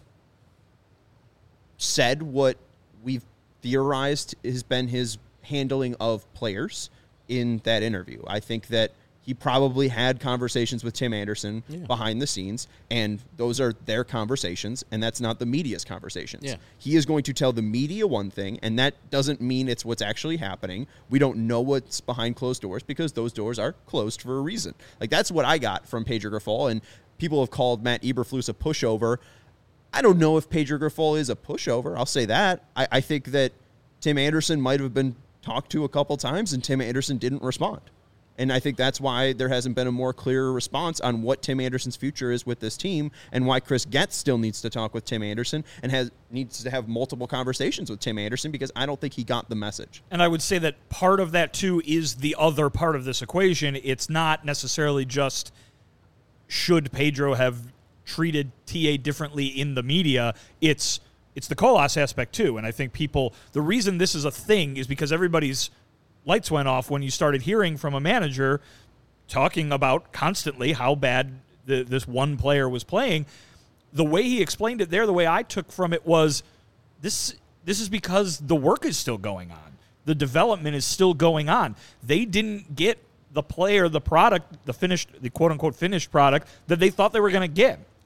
said what we've theorized has been his handling of players in that interview. I think that he probably had conversations with Tim Anderson yeah. behind the scenes, and those are their conversations, and that's not the media's conversations. Yeah. He is going to tell the media one thing, and that doesn't mean it's what's actually happening. We don't know what's behind closed doors because those doors are closed for a reason. Like, that's what I got from Pedro Grifol, and people have called Matt Eberflus a pushover. I don't know if Pedro Grifol is a pushover. I'll say that. I, I think that Tim Anderson might have been talked to a couple times, and Tim Anderson didn't respond. And I think that's why there hasn't been a more clear response on what Tim Anderson's future is with this team, and why Chris Getz still needs to talk with Tim Anderson and has needs to have multiple conversations with Tim Anderson, because I don't think he got the message. And I would say that part of that, too, is the other part of this equation. It's not necessarily just should Pedro have treated T A differently in the media. It's it's the Colas aspect, too. And I think people, the reason this is a thing is because everybody's lights went off when you started hearing from a manager talking about constantly how bad the, this one player was playing. The way he explained it there, the way I took from it was this this is because the work is still going on. The development is still going on. They didn't get the player, the product, the finished, the quote-unquote finished product that they thought they were going to get.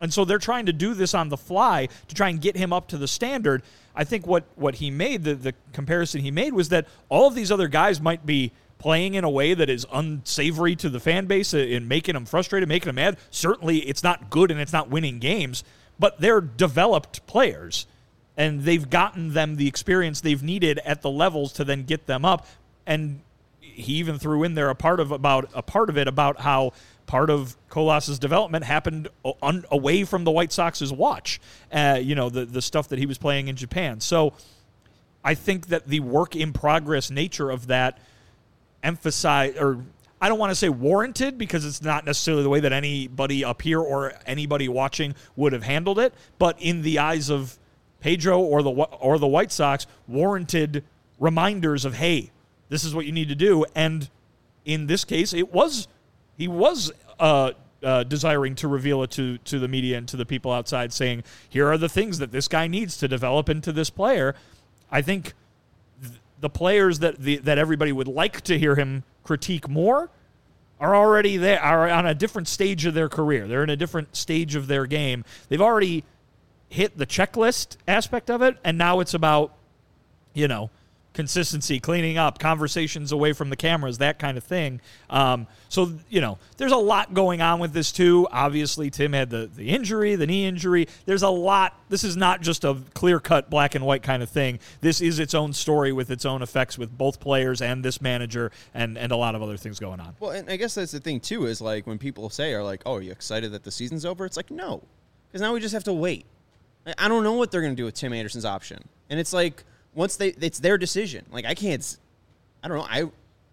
And so they're trying to do this on the fly to try and get him up to the standard. I think what, what he made, the, the comparison he made, was that all of these other guys might be playing in a way that is unsavory to the fan base and making them frustrated, making them mad. Certainly it's not good and it's not winning games, but they're developed players, and they've gotten them the experience they've needed at the levels to then get them up. And he even threw in there a part of about a part of it about how part of Colas's development happened un, away from the White Sox's watch. Uh, you know, the the stuff that he was playing in Japan. So I think that the work in progress nature of that emphasize, or I don't want to say warranted, because it's not necessarily the way that anybody up here or anybody watching would have handled it, but in the eyes of Pedro or the or the White Sox, warranted reminders of, hey, this is what you need to do. And in this case, it was he was uh, uh, desiring to reveal it to to the media and to the people outside, saying, here are the things that this guy needs to develop into this player. I think the players that the, that everybody would like to hear him critique more are already there, are on a different stage of their career. They're in a different stage of their game. They've already hit the checklist aspect of it, and now it's about, you know, consistency, cleaning up, conversations away from the cameras, that kind of thing. Um, so, you know, there's a lot going on with this, too. Obviously, Tim had the, the injury, the knee injury. There's a lot. This is not just a clear-cut black and white kind of thing. This is its own story with its own effects with both players and this manager and, and a lot of other things going on. Well, and I guess that's the thing, too, is like when people say, are like, oh, are you excited that the season's over? It's like, no, because now we just have to wait. I don't know what they're going to do with Tim Anderson's option. And it's like, once they, it's their decision. Like, I can't, I don't know. I,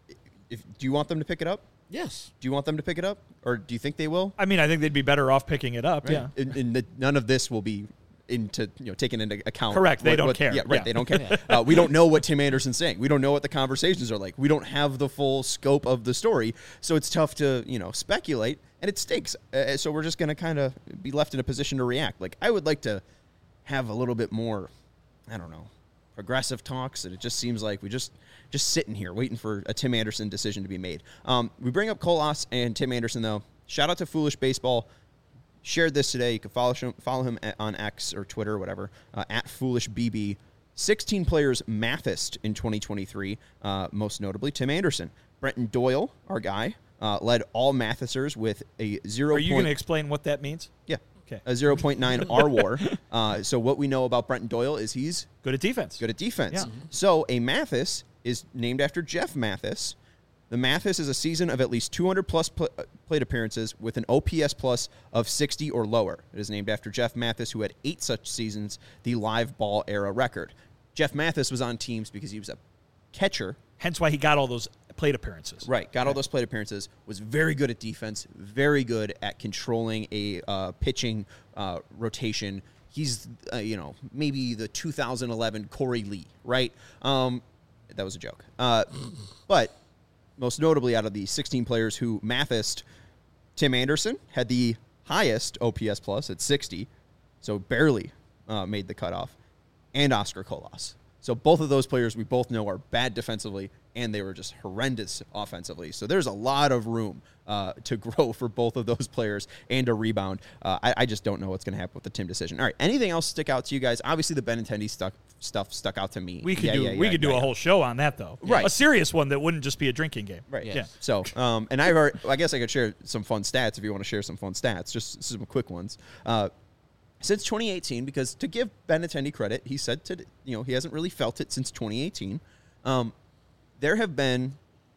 if, do you want them to pick it up? Yes. Do you want them to pick it up? Or do you think they will? I mean, I think they'd be better off picking it up, Right? yeah. And, and the, none of this will be into, you know, taken into account. Correct. They what, don't what, care. Yeah, right. Yeah. They don't care. uh, we don't know what Tim Anderson's saying. We don't know what the conversations are like. We don't have the full scope of the story. So it's tough to, you know, speculate, and it stinks. Uh, so we're just going to kind of be left in a position to react. Like, I would like to have a little bit more, I don't know, progressive talks, and it just seems like we just just sitting here waiting for a Tim Anderson decision to be made. Um, we bring up Colas and Tim Anderson, though. Shout out to Foolish Baseball. Shared this today. You can follow him, follow him at, on X or Twitter or whatever, uh, at Foolish B B. sixteen players Mathist in twenty twenty-three, uh, most notably Tim Anderson. Brenton Doyle, our guy, uh, led all Mathisters with a zero. Are you going to explain what that means? Yeah. Okay. A zero point nine R W A R. Uh, so what we know about Brenton Doyle is he's Good at defense. good at defense. Yeah. So a Mathis is named after Jeff Mathis. The Mathis is a season of at least two hundred plus pl- plate appearances with an O P S plus of sixty or lower. It is named after Jeff Mathis, who had eight such seasons, the live ball era record. Jeff Mathis was on teams because he was a catcher. Hence why he got all those plate appearances. Right, got all those plate appearances, was very good at defense, very good at controlling a uh, pitching uh, rotation. He's, uh, you know, maybe the two thousand eleven Corey Lee, right? Um, that was a joke. Uh, but most notably out of the sixteen players who Mathist, Tim Anderson had the highest O P S plus at sixty, so barely uh, made the cutoff, and Oscar Colas. So both of those players we both know are bad defensively, and they were just horrendous offensively. So there's a lot of room uh, to grow for both of those players and a rebound. Uh, I, I just don't know what's going to happen with the Tim decision. All right, anything else stick out to you guys? Obviously, the Benintendi stuck stuff stuck out to me. We could Yeah, do yeah, we yeah, could do yeah, a yeah. whole show on that though. Right. A serious one that wouldn't just be a drinking game. Right. Yes. Yeah. So, um, and I've already, I guess I could share some fun stats if you want to share some fun stats, just some quick ones. Uh, since twenty eighteen, because to give Benintendi credit, he said to, you know, he hasn't really felt it since twenty eighteen. Um, there have been,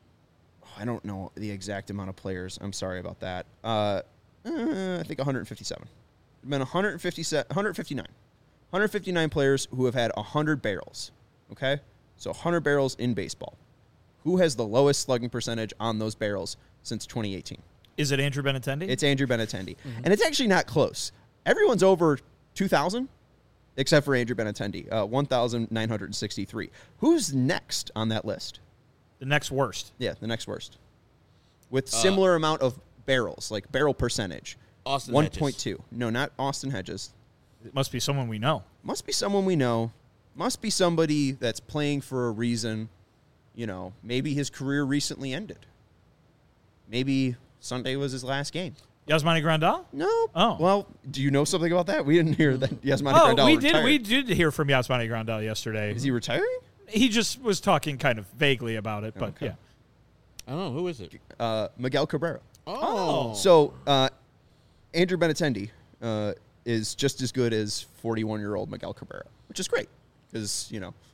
oh, I don't know the exact amount of players. I'm sorry about that. Uh, uh, I think one hundred fifty-seven. There have been one hundred fifty-seven, one hundred fifty-nine. one hundred fifty-nine players who have had one hundred barrels. Okay? So one hundred barrels in baseball. Who has the lowest slugging percentage on those barrels since twenty eighteen? Is it Andrew Benintendi? It's Andrew Benintendi. Mm-hmm. And it's actually not close. Everyone's over two thousand, except for Andrew Benintendi, uh, one thousand nine hundred sixty-three. Who's next on that list? the next worst. Yeah, the next worst. With similar uh, amount of barrels, like barrel percentage. Austin one point two. No, not Austin Hedges. It must be someone we know. Must be someone we know. Must be somebody that's playing for a reason. You know, maybe his career recently ended. Maybe Sunday was his last game. Yasmani Grandal? No. Oh. Well, do you know something about that? We didn't hear that Yasmani Oh, Grandal we retired. did. We did hear from Yasmani Grandal yesterday. Is he retiring? He just was talking kind of vaguely about it, but Okay. yeah. I don't know. Who is it? Uh, Miguel Cabrera. Oh. So uh, Andrew Benintendi uh, is just as good as forty-one-year-old Miguel Cabrera, which is great because, you know,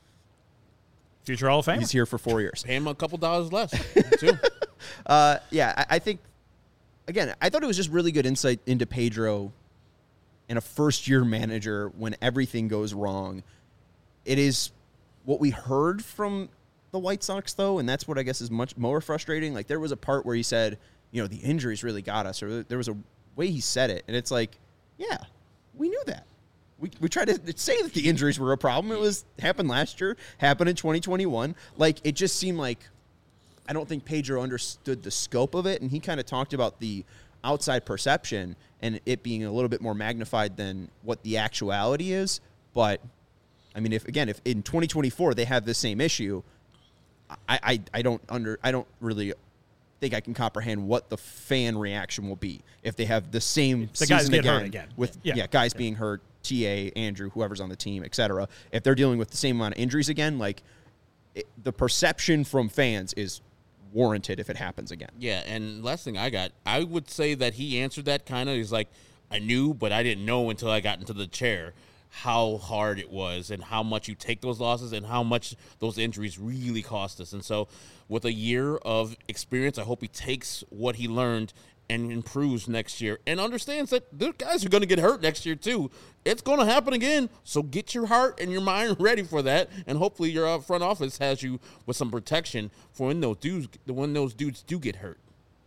Future Hall of Famer. he's here for four years. Pay him a couple dollars less, too. Uh, yeah, I, I think, again, I thought it was just really good insight into Pedro and a first-year manager when everything goes wrong. It is what we heard from the White Sox, though, and that's what I guess is much more frustrating. Like, there was a part where he said, you know, the injuries really got us, or there was a way he said it, and it's like, yeah, we knew that. We, we tried to say that the injuries were a problem. It was happened last year, happened in twenty twenty-one. Like, it just seemed like I don't think Pedro understood the scope of it, and he kind of talked about the outside perception and it being a little bit more magnified than what the actuality is. But, I mean, if again, if in twenty twenty-four they have the same issue, I, I, I don't under I don't really think I can comprehend what the fan reaction will be if they have the same The season guys get again, hurt again. with Yeah. yeah, guys being hurt, T A, Andrew, whoever's on the team, et cetera. If they're dealing with the same amount of injuries again, like it, the perception from fans is warranted if it happens again. Yeah, and last thing I got, I would say that he answered that kind of. He's like, I knew, but I didn't know until I got into the chair how hard it was and how much you take those losses and how much those injuries really cost us. And so with a year of experience, I hope he takes what he learned and improves next year and understands that those guys are going to get hurt next year too. It's going to happen again. So get your heart and your mind ready for that. And hopefully your uh, front office has you with some protection for when those dudes, when those dudes do get hurt.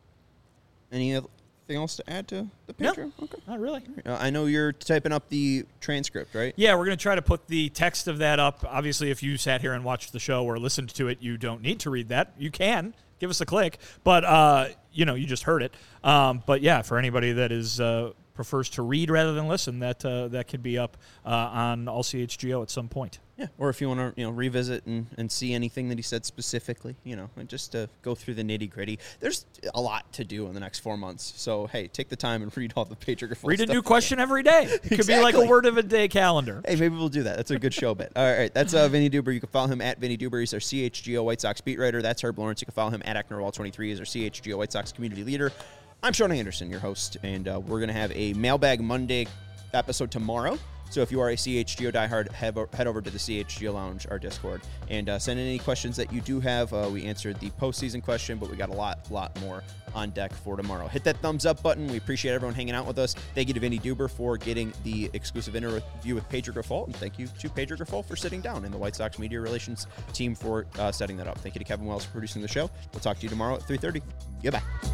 Anything else to add to the No, picture? Okay. not really. Uh, I know you're typing up the transcript, right? Yeah, we're going to try to put the text of that up. Obviously, if you sat here and watched the show or listened to it, you don't need to read that. You can. Give us a click. But, uh, you know, you just heard it. Um, but, yeah, for anybody that is uh, prefers to read rather than listen, that uh, that could be up uh, on All C H G O at some point. Yeah. Or if you want to, you know, revisit and, and see anything that he said specifically, you know, and just to go through the nitty gritty. There's a lot to do in the next four months. So, hey, take the time and read all the Pedro Grifol Read a stuff. new question every day. It could be like a Exactly. word of a day calendar. Hey, maybe we'll do that. That's a good show bit. All right, that's uh, Vinny Duber. You can follow him at Vinny Duber. He's our C H G O White Sox beat writer. That's Herb Lawrence. You can follow him at Acknerwall twenty-three. He's our C H G O White Sox community leader. I'm Sean Anderson, your host, and uh, we're going to have a Mailbag Monday episode tomorrow. So if you are a C H G O diehard, head, head over to the C H G O Lounge, our Discord, and uh, send in any questions that you do have. Uh, we answered the postseason question, but we got a lot, lot more on deck for tomorrow. Hit that thumbs up button. We appreciate everyone hanging out with us. Thank you to Vinny Duber for getting the exclusive interview with Pedro Grifol, and thank you to Pedro Grifol for sitting down and the White Sox media relations team for uh, setting that up. Thank you to Kevin Wells for producing the show. We'll talk to you tomorrow at three thirty. Goodbye.